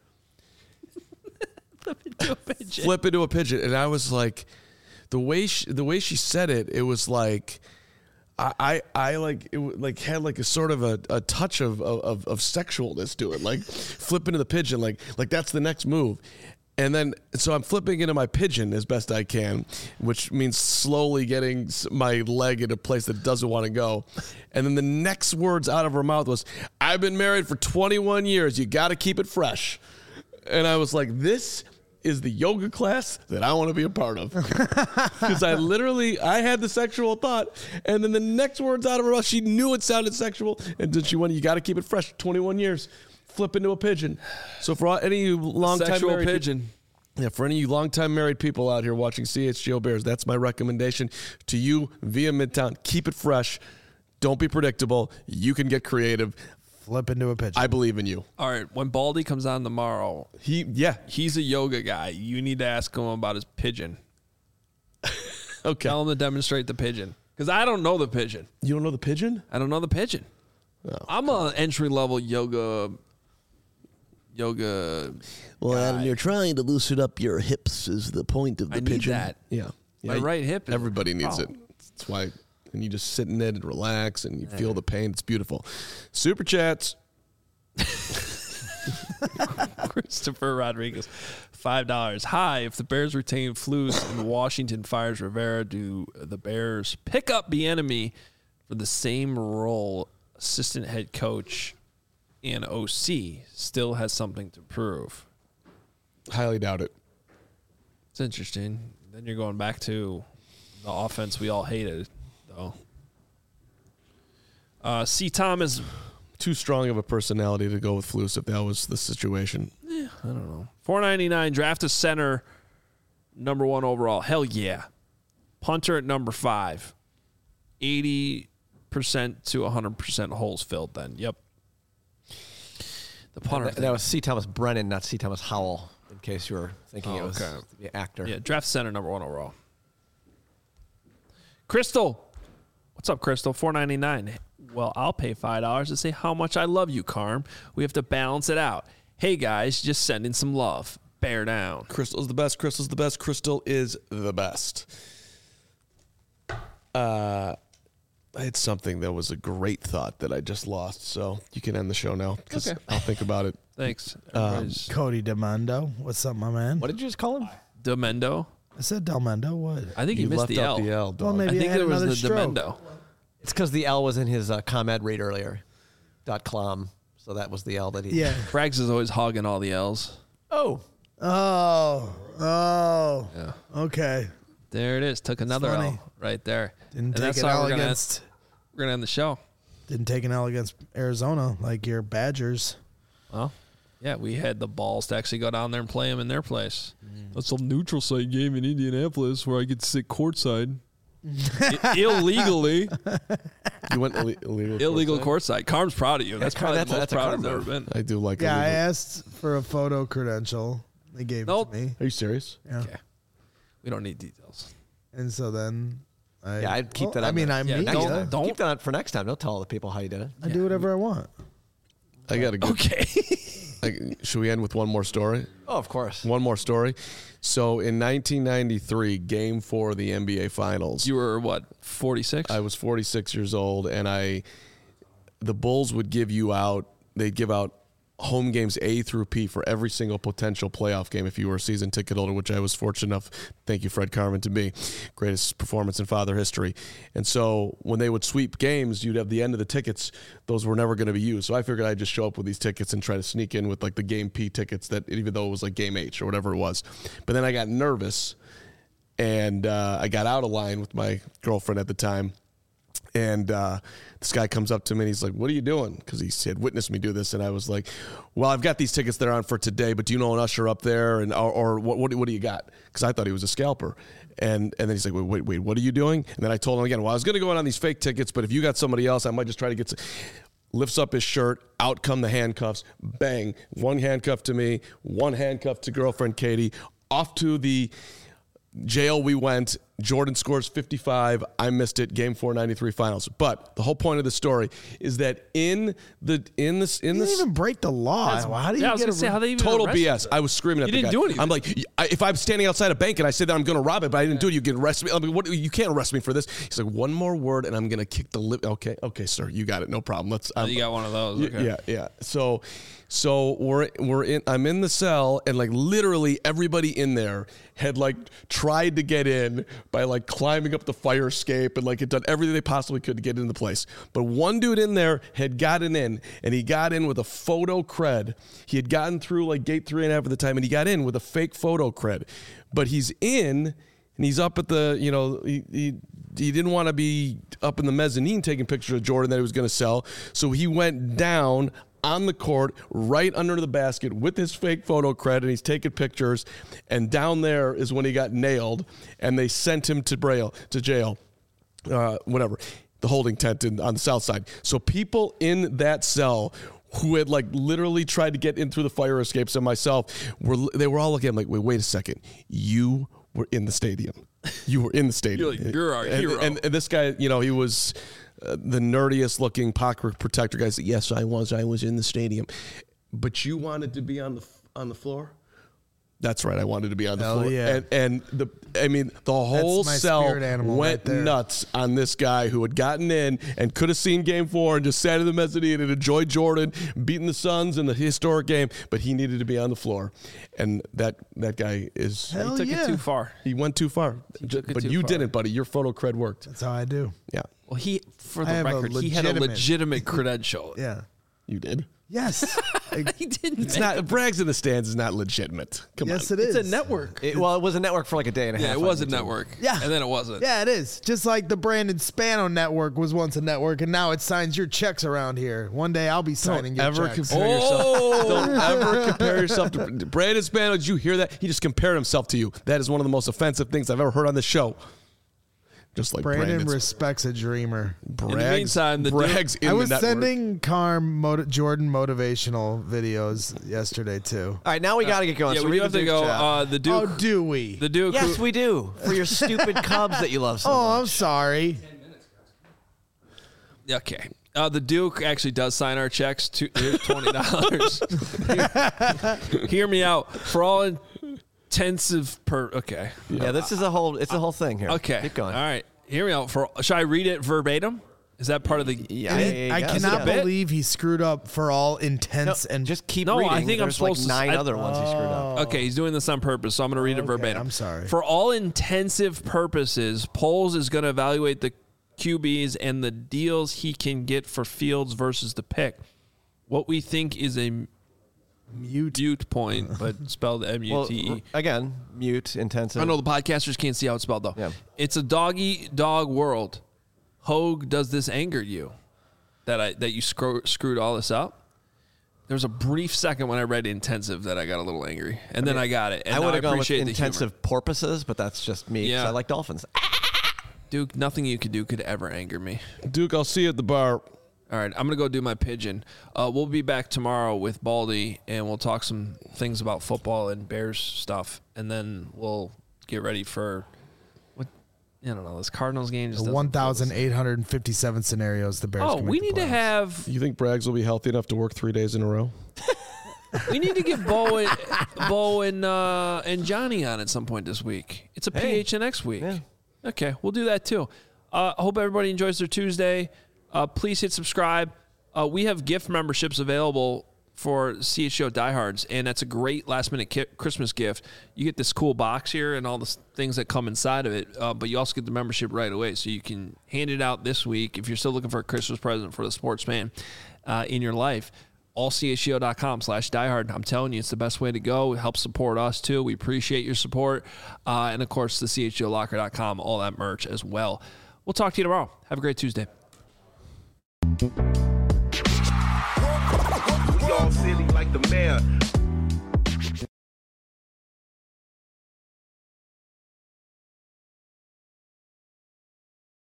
Flip into a pigeon.
flip into a pigeon, and I was like, the way she, the way she said it, it was like. I, I, I like it w- like had like a sort of a, a touch of, of of sexualness to it, like flip into the pigeon, like like that's the next move. And then, so I'm flipping into my pigeon as best I can, which means slowly getting s- my leg in a place that doesn't want to go. And then the next words out of her mouth was, I've been married for twenty-one years. You got to keep it fresh. And I was like, this is the yoga class that I want to be a part of. Because I literally, I had the sexual thought. And then the next words out of her mouth, she knew it sounded sexual. And then she went, you got to keep it fresh. twenty-one years. Flip into a pigeon. So for all, any of you long-time
Sexual
married
pigeon.
Yeah, for any of you long-time married people out here watching C H G O Bears, that's my recommendation to you via Midtown. Keep it fresh. Don't be predictable. You can get creative.
Flip into a pigeon.
I believe in you.
All right, when Baldy comes on tomorrow,
He, yeah,
he's a yoga guy. You need to ask him about his pigeon.
okay.
Tell him to demonstrate the pigeon. Because I don't know the pigeon.
You don't know the pigeon?
I don't know the pigeon.
Oh,
I'm an entry-level yoga yoga
Well, Adam,
guy.
you're trying to loosen up your hips is the point of the
I need
pigeon.
that.
Yeah.
My
Yeah,
right hip is
Everybody
a
needs it.
problem.
That's why. And you just sit in it and relax and you feel the pain. It's beautiful. Super chats.
Christopher Rodriguez, five dollars. Hi, if the Bears retain Flus and Washington fires Rivera, do the Bears pick up Bieniemy for the same role? Assistant head coach and O C still has something to prove.
Highly doubt it.
It's interesting. Then you're going back to the offense we all hated, though. Uh, C. Thomas,
Too strong of a personality to go with Flus if that was the situation.
I don't know. four ninety-nine, draft a center, number one overall. Hell yeah. Punter at number five. eighty percent to one hundred percent holes filled then. Yep. The punter.
That, that was C. Thomas Brennan, not C. Thomas Howell, in case you were thinking
Oh,
it was
okay.
the actor.
Yeah, draft center, number one overall. Crystal. What's up, Crystal? four ninety-nine. Well, I'll pay five dollars to say how much I love you, Carm. We have to balance it out. Hey, guys, just send in some love. Bear down.
Crystal's the best. Crystal's the best. Crystal is the best. Uh, I had something that was a great thought that I just lost. So you can end the show now because
Okay.
I'll think about it.
Thanks.
Um,
Everybody's-
Cody Demendo. What's up, my man?
What did you just call him?
Demendo.
I said Delmendo. What?
I think
You
he missed
left
the
out
L.
the L,
Well,
dog.
maybe
I think
I had
it was
another
the
stroke.
Demendo.
It's because the L was in his uh, ComEd read earlier. Dot clom. So that was the L that he.
Yeah.
Frags is always hogging all the L's.
Oh.
Oh. Oh.
Yeah.
Okay.
There it is. Took another
funny.
L right there.
Didn't
And
take
that's
an
how
L
we're gonna,
against.
we're gonna end the show.
Didn't take an L against Arizona like your Badgers.
Well, yeah, we had the balls to actually go down there and play them in their place. That's a neutral site game in Indianapolis where I get to sit courtside. I- illegally.
You went Ill- illegal.
Illegal
courtside?
courtside. Carm's proud of you. That's
Carm-
probably
that's a-
the most
that's a
proud
Carm
I've ever
move.
been.
I do like.
Yeah, I
illegal.
asked for a photo credential. They gave
Nope.
it to me.
Are you serious?
Yeah.
Okay. We don't need details.
And so then I
Yeah, I'd keep
well,
that
I
on
mean,
the-
I'm
Yeah,
media.
don't-
I,
don't-
Keep that for next time. Don't tell all the people how you did it.
do whatever I want.
I got to go.
Okay.
I, should we end with one more story?
Oh, of course.
One more story. So in nineteen ninety-three, Game Four of the N B A Finals,
You were what, forty-six?
I was forty-six years old, and I, the Bulls would give you out. They'd give out home games A through P for every single potential playoff game if you were a season ticket holder, which I was fortunate enough, thank you, Fred Carmen, to be. Greatest performance in Father history. And so when they would sweep games, you'd have the end of the tickets. Those were never going to be used. So I figured I'd just show up with these tickets and try to sneak in with like the game P tickets, that even though it was like game H or whatever it was. But then I got nervous, and uh, I got out of line with my girlfriend at the time. And uh, this guy comes up to me and he's like, "What are you doing?" Because he had witnessed me do this. And I was like, "Well, I've got these tickets that are on for today, but do you know an usher up there? And or, or what, what what do you got?" Because I thought he was a scalper. And and then he's like, "Wait, wait, wait, what are you doing?" And then I told him again, "Well, I was going to go in on these fake tickets, but if you got somebody else, I might just try to get some." Lifts up his shirt, out come the handcuffs, bang, one handcuff to me, one handcuff to girlfriend Katie, off to the jail we went. Jordan scores fifty-five. I missed it. Game four, ninety-three finals. But the whole point of the story is that in the in this in
You
this
didn't even break the law. How do you
yeah, I was
get
gonna
a
say, how they even
total
arrest
B S.
you?
I was screaming at
You
the
didn't
guy.
do anything.
I'm like, I- if I'm standing outside a bank and I say that I'm going to rob it, but I didn't do it, you can arrest me. I'm like, what? You can't arrest me for this. He's like, one more word and I'm going to kick the lip. Okay, okay, sir, you got it. No problem. Let's.
Oh,
I'm-
you got one of those.
Y-
Okay.
Yeah, yeah. So, so we're we're in. I'm in the cell, and like literally everybody in there had like tried to get in by like climbing up the fire escape and like had done everything they possibly could to get into the place. But one dude in there had gotten in, and he got in with a photo cred. He had gotten through like gate three and a half at the time, and he got in with a fake photo cred. But he's in. And he's up at the, you know, he, he, he didn't want to be up in the mezzanine taking pictures of Jordan that he was going to sell. So he went down on the court right under the basket with his fake photo cred, and he's taking pictures. And down there is when he got nailed, and they sent him to Braille, to jail, uh, whatever, the holding tent in, on the south side. So people in that cell who had like literally tried to get in through the fire escapes and myself, were they were all looking at me like, wait, wait a second, you were in the stadium. You were in the stadium.
You're like, you're our
and,
hero.
And, and this guy, you know, he was uh, the nerdiest looking pocket protector guy. Said, yes, I was. I was in the stadium. But you wanted to be on the on the floor? That's right. I wanted to be on the
Hell
floor.
yeah.
And, and the, I mean, the whole
my
cell
spirit animal
went
right there.
nuts on this guy who had gotten in and could have seen game four and just sat in the mezzanine and enjoyed Jordan beating the Suns in the historic game, but he needed to be on the floor. And that that guy is,
Hell
You took
yeah.
it too far.
he went too far.
took it
But
too
you
far.
didn't, buddy. Your photo cred worked.
That's how I do.
Yeah,
Well, he, for
I
the
have a
record, he had a
legitimate-
legitimate credential.
Yeah.
you did.
Yes. I-
He didn't.
It's not, Bragg's in the stands is not legitimate. Come
yes,
on.
it is.
It's a network.
It, well, it was a network for like a day and a
Yeah,
half.
it
on
was a
YouTube.
network.
Yeah.
And then it wasn't.
Yeah, it is. Just like the Brandon Spano network was once a network, and now it signs your checks around here. One day I'll be signing your
ever
checks.
compare
Oh!
yourself. Don't ever compare yourself to Brandon Spano. Did you hear that? He just compared himself to you. That is one of the most offensive things I've ever heard on this show. Just like
Brandon
Brandon's,
respects a dreamer.
Bragg's,
In the meantime, the dude-
Bragg's in
I was
the network.
sending Carm moti- Jordan motivational videos yesterday too.
All right, now we got to get going.
Yeah,
so
we
read
do have
the
to
Duke
go.
chat.
Uh, the Duke.
Oh, do we?
the Duke.
yes,
who-
we do. For your stupid Cubs that you love so
oh,
much.
I'm sorry.
Okay. Uh, the Duke actually does sign our checks. To, here's twenty dollars. Hear me out. For all intensive per. Okay.
Yeah, this is a whole. It's a whole thing here.
Okay.
keep going.
All right. Hear me out. For should I read it verbatim? Is that part of the?
Yeah,
I,
I
I
guess.
cannot
Is it a bit?
believe he screwed up for all intents
No,
and
just keep
No, I
reading.
think I'm
There's
supposed to-
like nine
I-
other ones he screwed up.
Okay, he's doing this on purpose, so I'm going to read it
Okay,
verbatim.
I'm sorry.
For all intensive purposes, Poles is going to evaluate the Q Bs and the deals he can get for Fields versus the pick. What we think is a
mute.
mute point, but spelled M U
Well,
T E.
again, mute, intensive.
I know the podcasters can't see how it's spelled, though.
Yeah.
It's a dog-eat-dog world. Hogue, does this anger you that I that you screw, screwed all this up? There was a brief second when I read intensive that I got a little angry, and then I got it. And
I
now
would have gone with
appreciate the humor.
intensive porpoises, but that's just me because
Yeah.
I like dolphins.
Duke, nothing you could do could ever anger me.
Duke, I'll see you at the bar.
All right, I'm going to go do my pigeon. Uh, we'll be back tomorrow with Baldy, and we'll talk some things about football and Bears stuff, and then we'll get ready for, what, I don't know, this Cardinals game. Just
The
doesn't-
one thousand eight hundred fifty-seven scenarios the Bears
Oh,
can make
we
the
need to
playoffs.
have,
You think Braggs will be healthy enough to work three days in a row?
we need to get Bo and, Bo and, uh, and Johnny on at some point this week. It's a
Hey.
P H N X week.
Yeah.
Okay, we'll do that too. I uh, hope everybody enjoys their Tuesday. Uh, please hit subscribe. Uh, we have gift memberships available for C H O Diehards, and that's a great last-minute ki- Christmas gift. You get this cool box here and all the s- things that come inside of it, uh, but you also get the membership right away, so you can hand it out this week if you're still looking for a Christmas present for the sports fan uh, in your life. all c h o dot com slash diehard. I'm telling you, it's the best way to go. It helps support us, too. We appreciate your support. Uh, and, of course, the c h o locker dot com, all that merch as well. We'll talk to you tomorrow. Have a great Tuesday.
We all silly like the mayor.